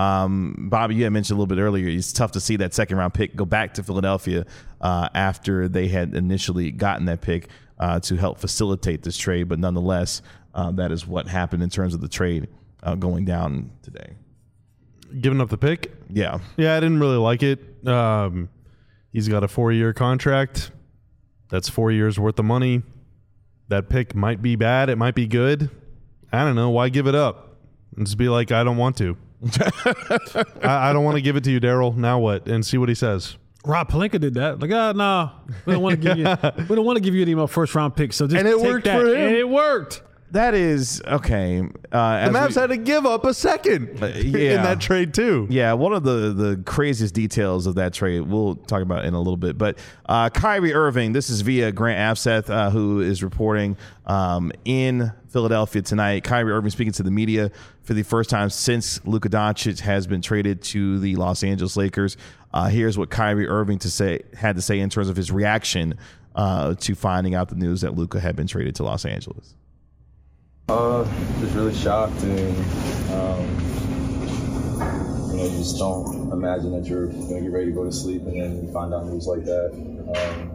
Um, Bobby, you had mentioned a little bit earlier, it's tough to see that second-round pick go back to Philadelphia uh, after they had initially gotten that pick uh, to help facilitate this trade. But nonetheless, uh, that is what happened in terms of the trade uh, going down today. Giving up the pick? Yeah. Yeah, I didn't really like it. Um, he's got a four-year contract. That's four years worth of money. That pick might be bad. It might be good. I don't know. Why give it up? And just be like, I don't want to. I, I don't want to give it to you, Daryl. Now what? And see what he says. Rob Pelinka did that. Like, ah, oh, no, we don't want to give you. We don't want to give you any more first round picks. So just And it take worked that. for him. And it worked. That is okay. Uh, The Mavs had to give up a second Uh, yeah. in that trade too. Yeah, one of the, the craziest details of that trade we'll talk about in a little bit. But uh, Kyrie Irving, this is via Grant Afseth, uh, who is reporting um, in Philadelphia tonight. Kyrie Irving speaking to the media for the first time since Luka Doncic has been traded to the Los Angeles Lakers. Uh, here's what Kyrie Irving to say had to say in terms of his reaction uh, to finding out the news that Luka had been traded to Los Angeles. Uh, just really shocked, and um, you know, you just don't imagine that you're gonna get ready to go to sleep, and then you find out news like that. Um,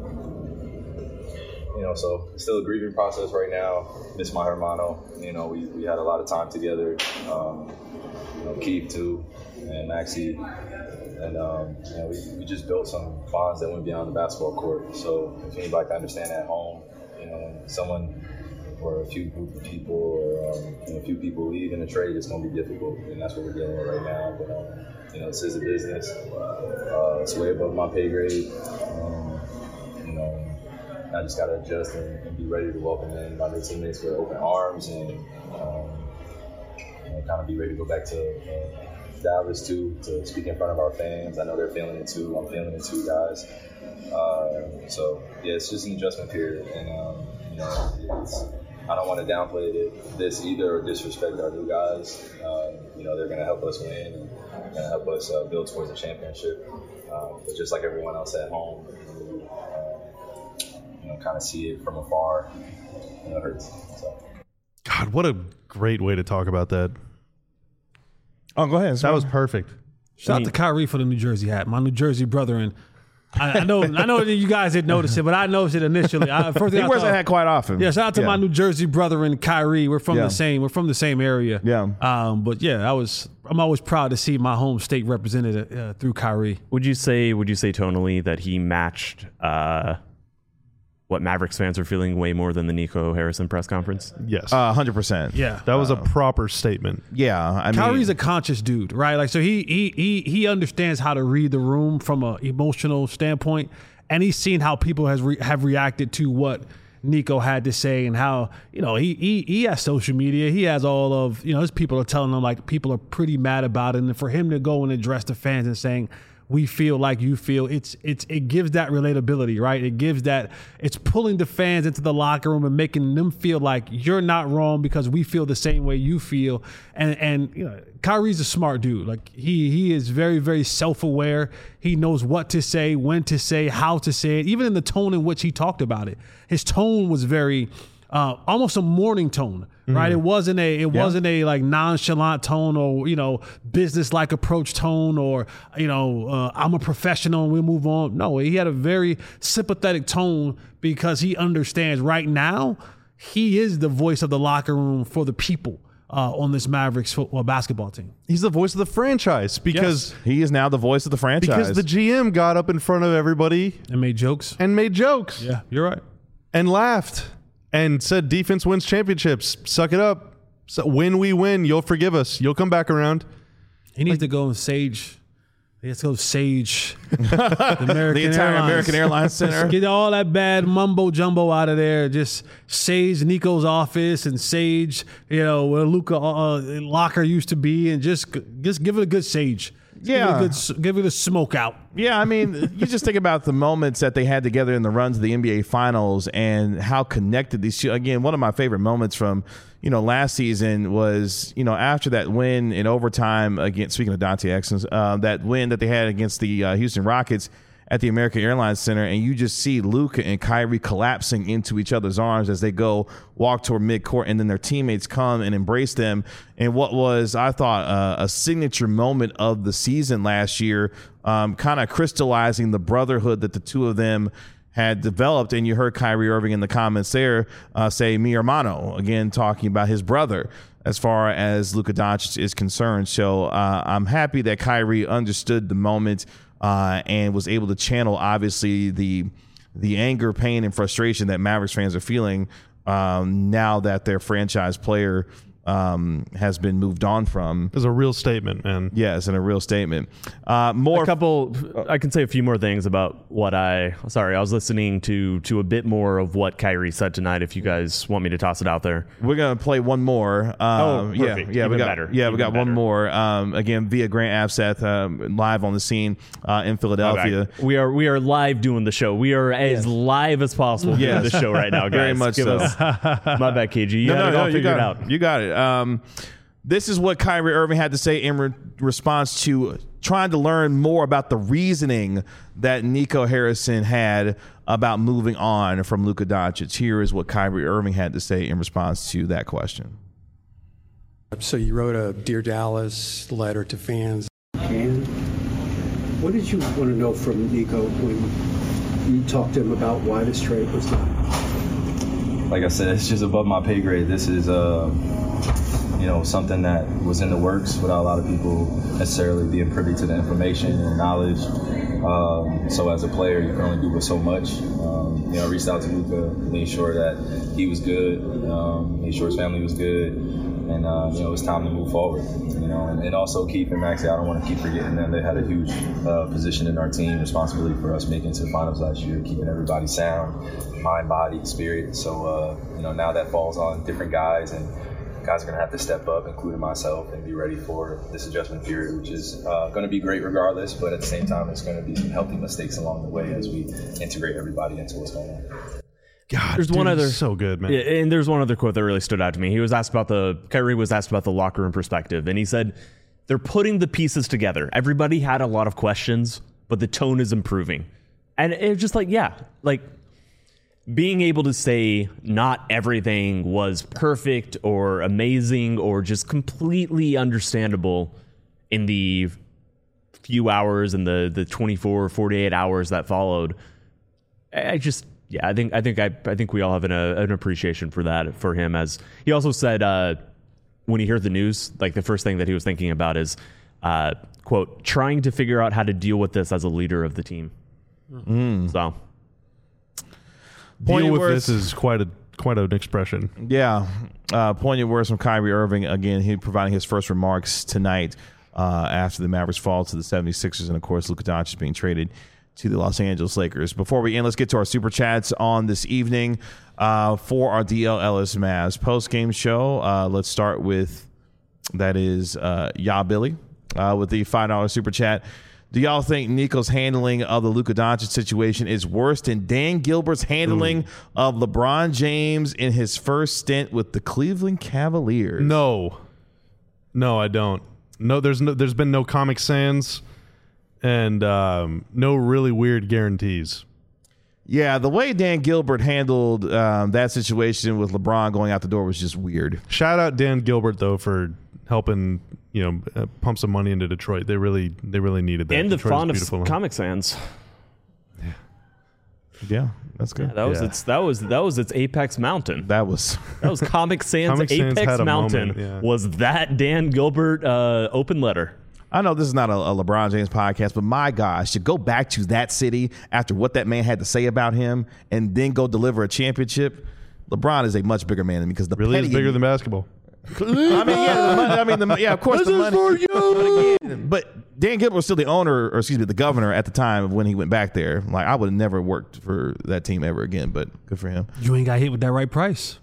you know, so it's still a grieving process right now. Miss my hermano. You know, we, we had a lot of time together. Um, you know, Keith too, and Maxie, and um, you know, we, we just built some bonds that went beyond the basketball court. So if anybody can understand at home, you know, when someone or a few group of people or um, you know, a few people leave in a trade, it's going to be difficult, and that's what we're dealing with right now. But um, you know, this is a business. Uh, it's way above my pay grade. Um, you know, I just got to adjust and, and be ready to welcome in my new teammates with open arms, and um, you know, kind of be ready to go back to uh, Dallas too, to speak in front of our fans. I know they're feeling it too. I'm feeling it too, guys. Uh, so yeah, it's just an adjustment period, and um, you know, it's. I don't want to downplay it, this either or disrespect our new guys. Um, you know, they're going to help us win and going to help us uh, build towards a championship. Um, but just like everyone else at home, you, uh, you know, kind of see it from afar, and it hurts. So. God, what a great way to talk about that. Oh, go ahead. That was perfect. Shout out to Kyrie for the New Jersey hat. My New Jersey brother, and I, I know, I know that you guys didn't notice it, but I noticed it initially. I, first thing He I wears thought, that hat quite often. Yeah, shout out to Yeah. my New Jersey brother and Kyrie. We're from Yeah. the same. We're from the same area. Yeah. Um, but yeah, I was. I'm always proud to see my home state represented uh, through Kyrie. Would you say? Would you say tonally that he matched uh, what Mavericks fans are feeling way more than the Nico Harrison press conference? Yes. Uh, one hundred percent. Yeah. that was a proper statement. Yeah. I mean, Kyrie's a conscious dude, right? Like, so he he he he understands how to read the room from an emotional standpoint, and he's seen how people has re- have reacted to what Nico had to say, and how, you know, he he he has social media. He has all of, you know, his people are telling him, like, people are pretty mad about it, and for him to go and address the fans and saying, we feel like you feel, it's it's it gives that relatability, right? It gives that, it's pulling the fans into the locker room and making them feel like you're not wrong because we feel the same way you feel. And and you know, Kyrie's a smart dude. Like, he he is very, very self-aware. He knows what to say, when to say, how to say it, even in the tone in which he talked about it. His tone was very uh, almost a morning tone. Right, it wasn't a it Yeah. wasn't a like nonchalant tone, or, you know, business like approach tone, or, you know, uh, I'm a professional and we'll move on. No, he had a very sympathetic tone because he understands right now he is the voice of the locker room for the people uh, on this Mavericks football basketball team. He's the voice of the franchise because he is now the voice of the franchise. because the G M got up in front of everybody And made jokes. and made jokes Yeah, you're right. and laughed and said defense wins championships. Suck it up. So when we win, you'll forgive us. You'll come back around. He needs to go and sage. He has to go sage the American the entire Airlines. American Airlines Center. Get all that bad mumbo jumbo out of there. Just sage Nico's office and sage, you know, where Luka uh, locker used to be, and just just give it a good sage. Yeah. give it a, good, give it a smoke out. Yeah, I mean, you just think about the moments that they had together in the runs of the N B A Finals and how connected these two. Again, one of my favorite moments from, you know, last season was, you know, after that win in overtime against, speaking of Dante Exum, uh, that win that they had against the uh, Houston Rockets at the American Airlines Center, and you just see Luka and Kyrie collapsing into each other's arms as they go walk toward midcourt, and then their teammates come and embrace them. And what was, I thought, uh, a signature moment of the season last year, um, kind of crystallizing the brotherhood that the two of them had developed. And you heard Kyrie Irving in the comments there uh, say mi hermano, again talking about his brother as far as Luka Doncic is concerned. So uh, I'm happy that Kyrie understood the moment uh, and was able to channel, obviously, the the anger, pain, and frustration that Mavericks fans are feeling um, now that their franchise player um, has been moved on from. It's a real statement, man. Yes, and a real statement. Uh, more a couple. I can say a few more things about what I. Sorry, I was listening to to a bit more of what Kyrie said tonight. If you guys want me to toss it out there, we're gonna play one more. Um, oh, yeah, perfect. yeah, Even we got better. yeah, Even we got better. one more. Um, again, via Grant Abseth, um, live on the scene uh, in Philadelphia. Okay. We are we are live doing the show. We are as live as possible doing Yes. the show right now, guys. Very much Give so. us, my bad, K G. You No, had no, it no, all you figured got out. it. You got it. Um, this is what Kyrie Irving had to say in re- response to trying to learn more about the reasoning that Nico Harrison had about moving on from Luka Doncic. Here is what Kyrie Irving had to say in response to that question. So you wrote a Dear Dallas letter to fans. And what did you want to know from Nico when you talked to him about why this trade was done? Like I said, it's just above my pay grade. This is, uh, you know, something that was in the works without a lot of people necessarily being privy to the information and knowledge. Um, so as a player, you can only do but so much. Um, you know, I reached out to Luka, made sure that he was good, um, made sure his family was good, and uh, you know, it was time to move forward. You know, and, and also Keith and Maxey, I don't want to keep forgetting them. They had a huge uh, position in our team, responsibility for us making it to the finals last year, keeping everybody sound, mind, body, spirit. So uh, you know, now that falls on different guys, and guys are going to have to step up, including myself, and be ready for this adjustment period, which is uh, going to be great regardless, but at the same time, there's going to be some healthy mistakes along the way as we integrate everybody into what's going on. God, There's dude, one other he's so good, man. Yeah, and there's one other quote that really stood out to me. He was asked about the Kyrie was asked about the locker room perspective, and he said they're putting the pieces together. Everybody had a lot of questions, but the tone is improving, and it was just like, yeah, like being able to say not everything was perfect or amazing or just completely understandable in the few hours and the the twenty-four, forty-eight hours that followed. I just. Yeah, I think I think I I think we all have an, uh, an appreciation for that for him. As he also said, uh, when he heard the news, like the first thing that he was thinking about is, uh, quote, trying to figure out how to deal with this as a leader of the team. Mm. So, Deal with words. this is quite a quite an expression. Yeah. Uh, poignant words from Kyrie Irving. Again, he providing his first remarks tonight uh, after the Mavericks fall to the seventy-sixers. And, of course, Luka Doncic being traded to the Los Angeles Lakers. Before we end, let's get to our super chats on this evening uh, for our D L Ellis Mavs post-game show. Uh, let's start with, that is, uh, Ya Billy uh, with the five dollar super chat. Do y'all think Nico's handling of the Luka Doncic situation is worse than Dan Gilbert's handling Ooh. of LeBron James in his first stint with the Cleveland Cavaliers? No. No, I don't. No, there's no, there's been no Comic Sans and um, no really weird guarantees. Yeah, the way Dan Gilbert handled um, that situation with LeBron going out the door was just weird. Shout out Dan Gilbert though for helping, you know, uh, pump some money into Detroit. They really, they really needed that. And the Detroit fond is of beautiful. Comic Sans. Yeah, yeah, that's good. Yeah, that was Yeah. its that was that was its apex mountain. That was That was Comic Sans Comic Sans apex had a mountain. moment, yeah. Was that Dan Gilbert uh, open letter? I know this is not a, a LeBron James podcast, but my gosh, to go back to that city after what that man had to say about him and then go deliver a championship, LeBron is a much bigger man than me because the Really is petty- bigger than basketball. I mean, yeah, the money, I mean, the, yeah, of course, the money. For you. But, again, but Dan Gilbert was still the owner, or excuse me, the governor at the time of when he went back there. Like, I would have never worked for that team ever again, but good for him. You ain't got hit with that right price.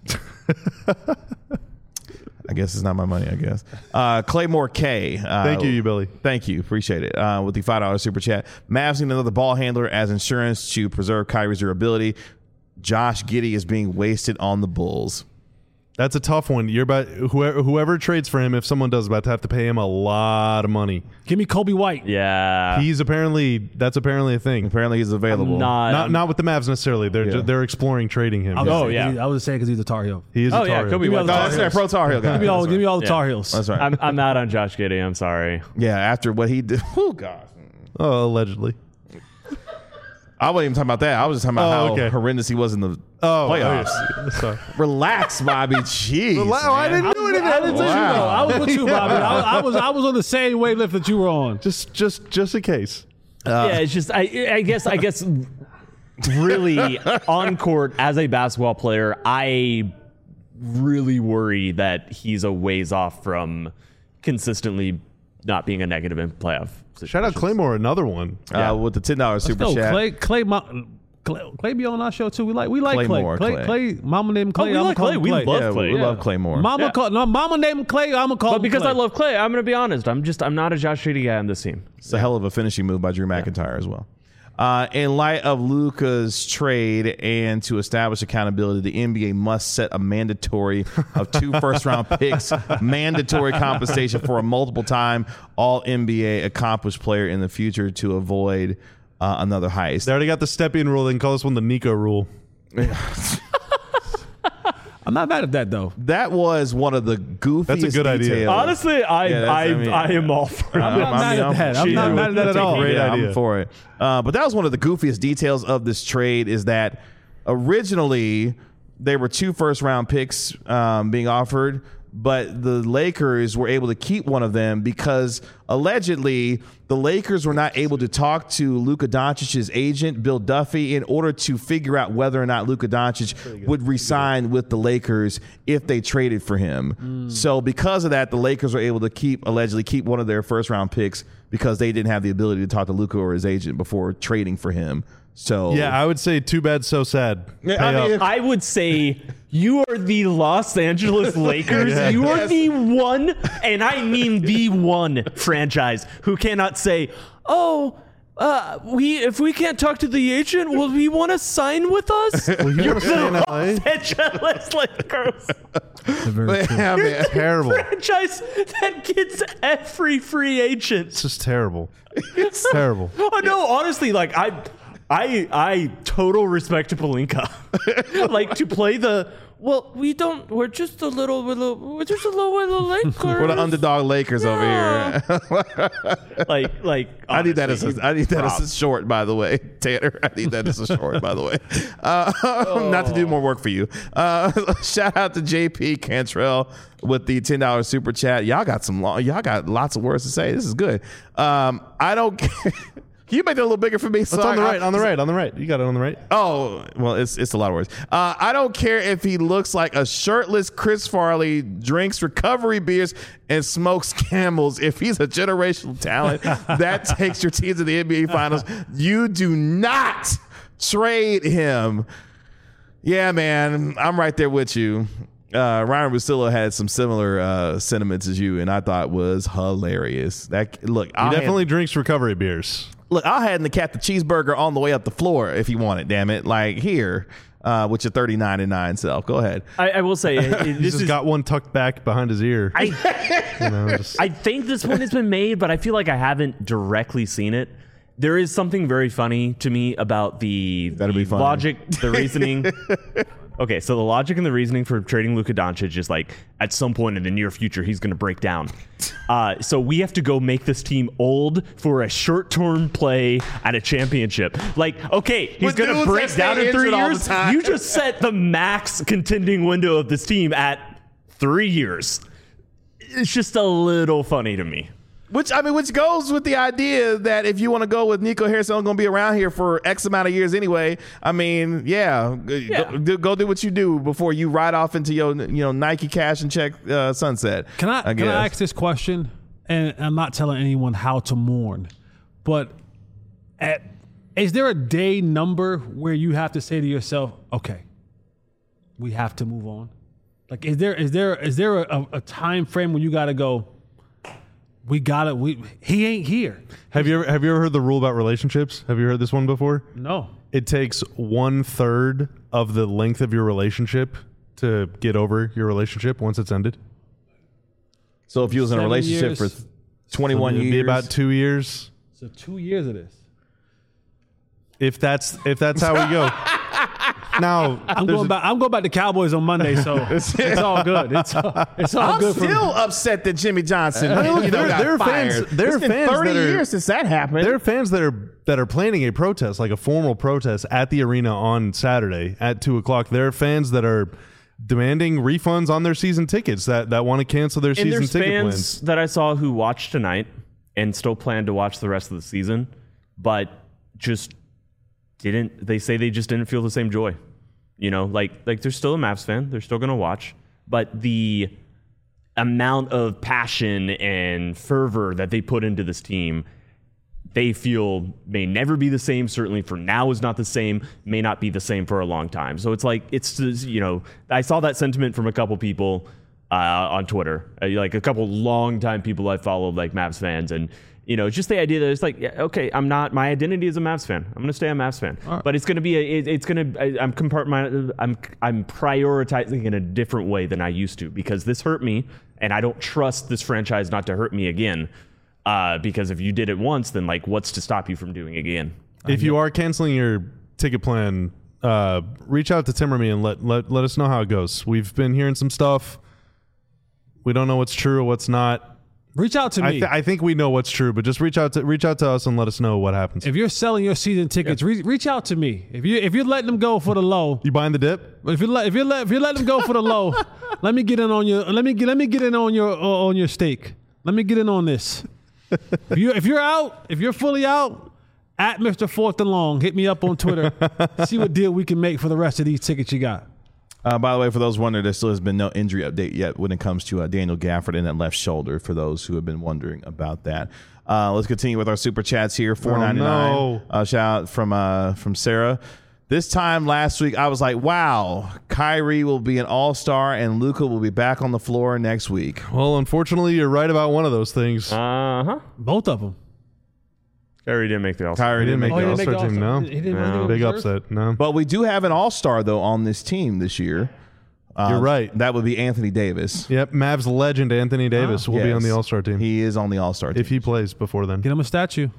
I guess it's not my money, I guess. Uh, Claymore K. Uh, Thank you, you Billy. Thank you. Appreciate it. Uh, with the five dollar super chat. Mavs need another ball handler as insurance to preserve Kyrie's durability. Josh Giddey is being wasted on the Bulls. That's a tough one. You're about whoever, whoever trades for him, if someone does, about to have to pay him a lot of money. Give me Kobe White. Yeah, He's apparently that's apparently a thing. Apparently he's available. I'm not. Not I'm- not with the Mavs necessarily. They're Yeah. ju- they're exploring trading him. I was Oh, saying, yeah. 'cause he- I was saying because he's a Tar Heel. He is Oh, a yeah, Tar Heel. Kobe Give me White. all the No, Tar that's Heels. that pro Tar Heel guy. Give me all, That's give me right. all the Yeah. Tar Heels. That's right. I'm I'm out on Josh Giddey. I'm sorry. Yeah, after what he did. Oh, God. Oh, allegedly. I wasn't even talking about that. I was just talking about Oh, how okay. horrendous he was in the Oh, playoffs. oh, yeah. Sorry. Relax, Bobby. Jeez. Relax. Oh, I man. didn't do anything. I didn't say Wow. you know. I was with you, Bobby. I, I was I was on the same wavelength that you were on. Just just just in case. yeah, it's just I I guess I guess really on court as a basketball player, I really worry that he's a ways off from consistently not being a negative in playoff situations. Shout out Claymore, another one. Uh, with the ten dollars super No, chat. Clay, Clay, Clay, Clay, Clay be on our show too. We like, we like Clay. Claymore, Clay, Clay. Clay, Mama named Clay. Oh, we I'ma like call Clay. him We Clay. love Yeah, Clay. we Yeah. love Claymore. Mama Yeah. call no. Mama named him Clay. I'm gonna call But him because Clay. I love Clay, I'm going to be honest. I'm just I'm not a Josh Giddey guy on this team. It's a hell of a finishing move by Drew McIntyre as well. Uh, in light of Luka's trade and to establish accountability, the N B A must set a mandatory of two first-round picks, mandatory compensation for a multiple-time All-N B A accomplished player in the future to avoid uh, another heist. They already got the step-in rule. They can call this one the Nico rule. I'm not mad at that though. That was one of the goofiest That's a good idea. details. Honestly, I Yeah, that's- I, I mean- I am all for I'm it. not mad at that. I'm Gee, not mad at that that's at a all. great yeah, idea. I'm for it. Uh, but that was one of the goofiest details of this trade is that originally there were two first round picks um, being offered, but the Lakers were able to keep one of them because allegedly the Lakers were not able to talk to Luka Doncic's agent, Bill Duffy, in order to figure out whether or not Luka Doncic would re-sign with the Lakers if they traded for him. Mm. So because of that, the Lakers were able to keep, allegedly keep one of their first round picks because they didn't have the ability to talk to Luka or his agent before trading for him. So Yeah, I would say too bad, so sad. Yeah, Pay I mean, up. if- I would say you are the Los Angeles Lakers. Yeah. You are the one, and I mean the one franchise who cannot say, "Oh, uh, we if we can't talk to the agent, will he want to sign with us?" Well, you You're wanna stay in the L A? Los Angeles Lakers yeah, man. Terrible. franchise that gets every free agent. It's just terrible. It's terrible. Oh no, honestly, like I, I, I total respect to Pelinka. Like to play the well, we don't. We're just a little, little we're just a little, little Lakers. We're the underdog Lakers over here. like, like I need that as honestly, a, I need that as a props. short, by the way, Tanner. I need that as a short, by the way. Uh, Not to do more work for you. Uh, shout out to J P Cantrell with the ten dollars super chat. Y'all got some long, y'all got lots of words to say. This is good. Um, I don't. Can you make that a little bigger for me? It's on the right, on the right, on the right. You got it on the right. Oh, well, it's it's a lot of words. Uh, I don't care if he looks like a shirtless Chris Farley, drinks recovery beers, and smokes camels. If he's a generational talent, that takes your team to the N B A Finals. You do not trade him. Yeah, man, I'm right there with you. Uh, Ryan Russillo had some similar uh, sentiments as you, and I thought was hilarious. That look, He I'll definitely hand, drinks recovery beers. look. I'll hand the cat the cheeseburger on the way up the floor if you want it. Damn it, like here uh, with your thirty-nine and nine self. Go ahead. I, I will say it, it- He's this just is. got one tucked back behind his ear. I, you know, just- I think this one has been made, but I feel like I haven't directly seen it. There is something very funny to me about the, That'd the be funny. logic, the reasoning. Okay, so the logic and the reasoning for trading Luka Doncic is like at some point in the near future he's going to break down. Uh, so we have to go make this team old for a short-term play at a championship. Like, okay, he's With going to dudes break that down stay in three injured all the years. time. You just set the max contending window of this team at three years. It's just a little funny to me. Which I mean, which goes with the idea that if you want to go with Nico Harrison, going to be around here for X amount of years anyway. I mean, yeah, Yeah. Go, do, go do what you do before you ride off into your you know Nike cash and check uh, sunset. Can I, I can I guess. ask this question? And I'm not telling anyone how to mourn, but at, is there a day number where you have to say to yourself, "Okay, we have to move on"? Like, is there is there is there a, a time frame when you got to go? We got it. We he ain't here. have you ever have you ever heard the rule about relationships? Have you heard this one before? No. It takes one third of the length of your relationship to get over your relationship once it's ended. So if you was in a Seven relationship years. for twenty-one It'd years, be about two years. So two years of this. If that's if that's how we go. Now I'm there's going a- back. I'm going back to Cowboys on Monday, so it's, it's all good. It's all, it's all I'm good for me. still upset that Jimmy Johnson. I mean, look, you know, there- got there are fired. fans- there It's are been fans thirty that are- years since that happened. There are fans that are that are planning a protest, like a formal protest, at the arena on Saturday at two o'clock. There are fans that are demanding refunds on their season tickets that, that want to cancel their And season there's ticket fans plans. that I saw who watched tonight and still plan to watch the rest of the season, but just didn't. They say they just didn't feel the same joy. You know, like like they're still a Mavs fan. They're still going to watch, but the amount of passion and fervor that they put into this team, they feel may never be the same. Certainly for now is not the same, may not be the same for a long time. So it's like, it's, you know, I saw that sentiment from a couple people uh, on Twitter, uh, like a couple longtime people I followed, like Mavs fans. And, you know, just the idea that it's like, yeah, okay, I'm not, my identity is a Mavs fan. I'm going to stay a Mavs fan, right. But it's going to be, a, it, it's going to, I'm compartment, I'm, I'm prioritizing in a different way than I used to, because this hurt me and I don't trust this franchise not to hurt me again. Uh, because if you did it once, then like, what's to stop you from doing it again? If you are canceling your ticket plan, uh, reach out to Tim or me and let, let, let us know how it goes. We've been hearing some stuff. We don't know what's true or what's not. Reach out to me. I, th- I think we know what's true, but just reach out to reach out to us and let us know what happens. If you're selling your season tickets, yeah. re- reach out to me. If you if you're letting them go for the low, you buying the dip. If you let if you let if you letting them go for the low, let me get in on your let me get let me get in on your uh, on your stake. Let me get in on this. if you if you're out, if you're fully out, at Mister Fourth and Long, hit me up on Twitter. See what deal we can make for the rest of these tickets you got. Uh, by the way, for those wondering, there still has been no injury update yet when it comes to uh, Daniel Gafford in that left shoulder, for those who have been wondering about that. Uh, let's continue with our super chats here. four ninety-nine. Oh, no. uh, shout out from, uh, from Sarah. This time last week, I was like, wow, Kyrie will be an all-star and Luka will be back on the floor next week. Well, unfortunately, you're right about one of those things. Uh-huh. Both of them. Kyrie didn't make the All-Star. Kyrie didn't make oh, the All-Star team, no. He didn't No. make Big the reserve? upset, no. But we do have an all-star, though, on this team this year. Uh, You're right. That would be Anthony Davis. Yep, Mavs legend Anthony Davis Oh, will be yes. on the All-Star team. He is on the all-star team. if he plays before then. Get him a statue.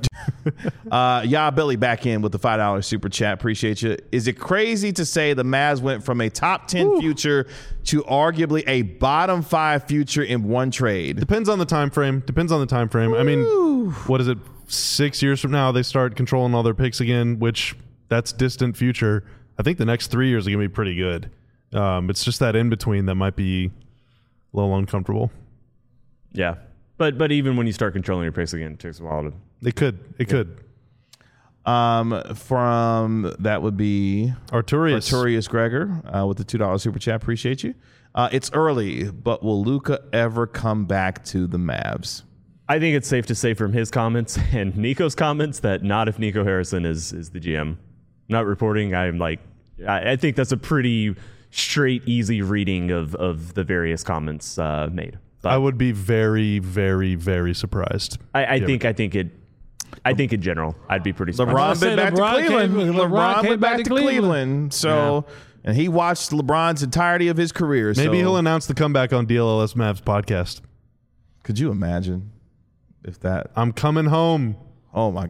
uh, yeah, Billy back in with the five dollar super chat. Appreciate you. Is it crazy to say the Mavs went from a top ten Ooh. future to arguably a bottom five future in one trade? Depends on the time frame. Depends on the time frame. Ooh. I mean, what is it? Six years from now, they start controlling all their picks again, which that's distant future. I think the next three years are going to be pretty good. Um, it's just that in between that might be a little uncomfortable. Yeah. But but even when you start controlling your pace again, it takes a while to... It could. It yeah. could. Um, from, that would be... Arturius. Arturius Gregor uh, with the two dollar super chat. Appreciate you. Uh, it's early, but will Luka ever come back to the Mavs? I think it's safe to say from his comments and Nico's comments that not if Nico Harrison is, is the G M. Not reporting. I'm like... I, I think that's a pretty straight, easy reading of, of the various comments uh, made. But I would be very, very, very surprised. I, I think. I think it. I think in general, I'd be pretty LeBron surprised. been back LeBron to Cleveland. came- LeBron, LeBron came went back, back to to Cleveland. Cleveland. So, and he watched LeBron's entirety of his career. Maybe so. he'll announce the comeback on D L L S Mavs podcast. Could you imagine if that? I'm coming home. Oh my!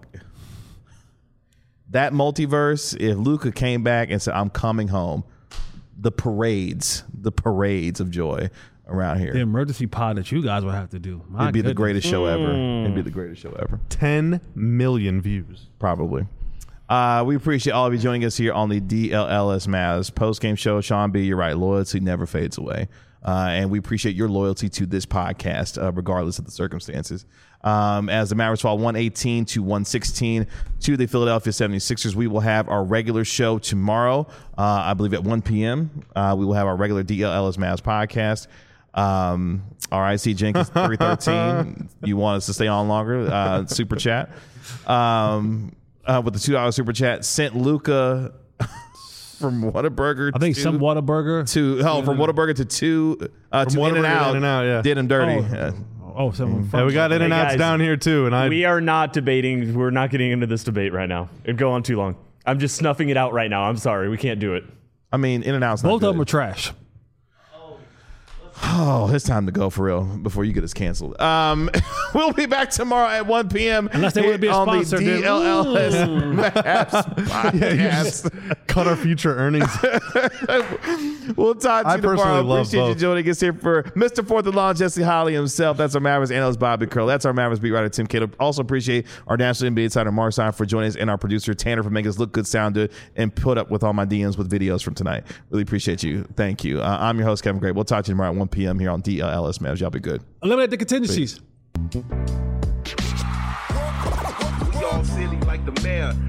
That multiverse. If Luka came back and said, "I'm coming home," the parades, the parades of joy around here. The emergency pod that you guys would have to do. My It'd be goodness. the greatest show ever. It'd be the greatest show ever. ten million views. Probably. Uh, we appreciate all of you joining us here on the D L L S Mavs post-game show. Sean B., you're right. Loyalty never fades away. Uh, and we appreciate your loyalty to this podcast, uh, regardless of the circumstances. Um, as the Mavericks fall one eighteen to one sixteen to the Philadelphia seventy-sixers, we will have our regular show tomorrow, uh, I believe at one p.m. Uh, we will have our regular D L L S Mavs podcast. Um, all right, C. Jenkins, three thirteen. You want us to stay on longer? Uh, super chat. Um, uh, with the two dollar super chat, sent Luka from Whataburger. I think to, some Whataburger. to oh, from Whataburger to two uh, From to Whataburger In and to Out. In-N-Out, yeah. Did him dirty. Oh. Uh, Oh, some Yeah, we got In and Outs guys, down here too, and I. We are not debating. We're not getting into this debate right now. It'd go on too long. I'm just snuffing it out right now. I'm sorry. We can't do it. I mean, In and Out's not Both good. of them are trash. Oh, it's time to go for real before you get us canceled. Um, we'll be back tomorrow at one p.m. Unless they here want to be a on sponsor, the then- D L L S Mavs podcast. cut our future earnings. We'll talk to I you tomorrow. personally love Appreciate you both. joining us here for Mister Fourth and Long, Jesse Holly himself. That's our Mavericks analyst, Bobby Curl. That's our Mavericks beat writer, Tim Cato. Also appreciate our national N B A insider, Marcin, for joining us, and our producer, Tanner, for making us look good, sound good, and put up with all my D Ms with videos from tonight. Really appreciate you. Thank you. Uh, I'm your host, Kevin Gray. We'll talk to you tomorrow at one p.m. here on D L L S Mavs. Y'all be good. Eliminate the contingencies. We all silly like the mayor.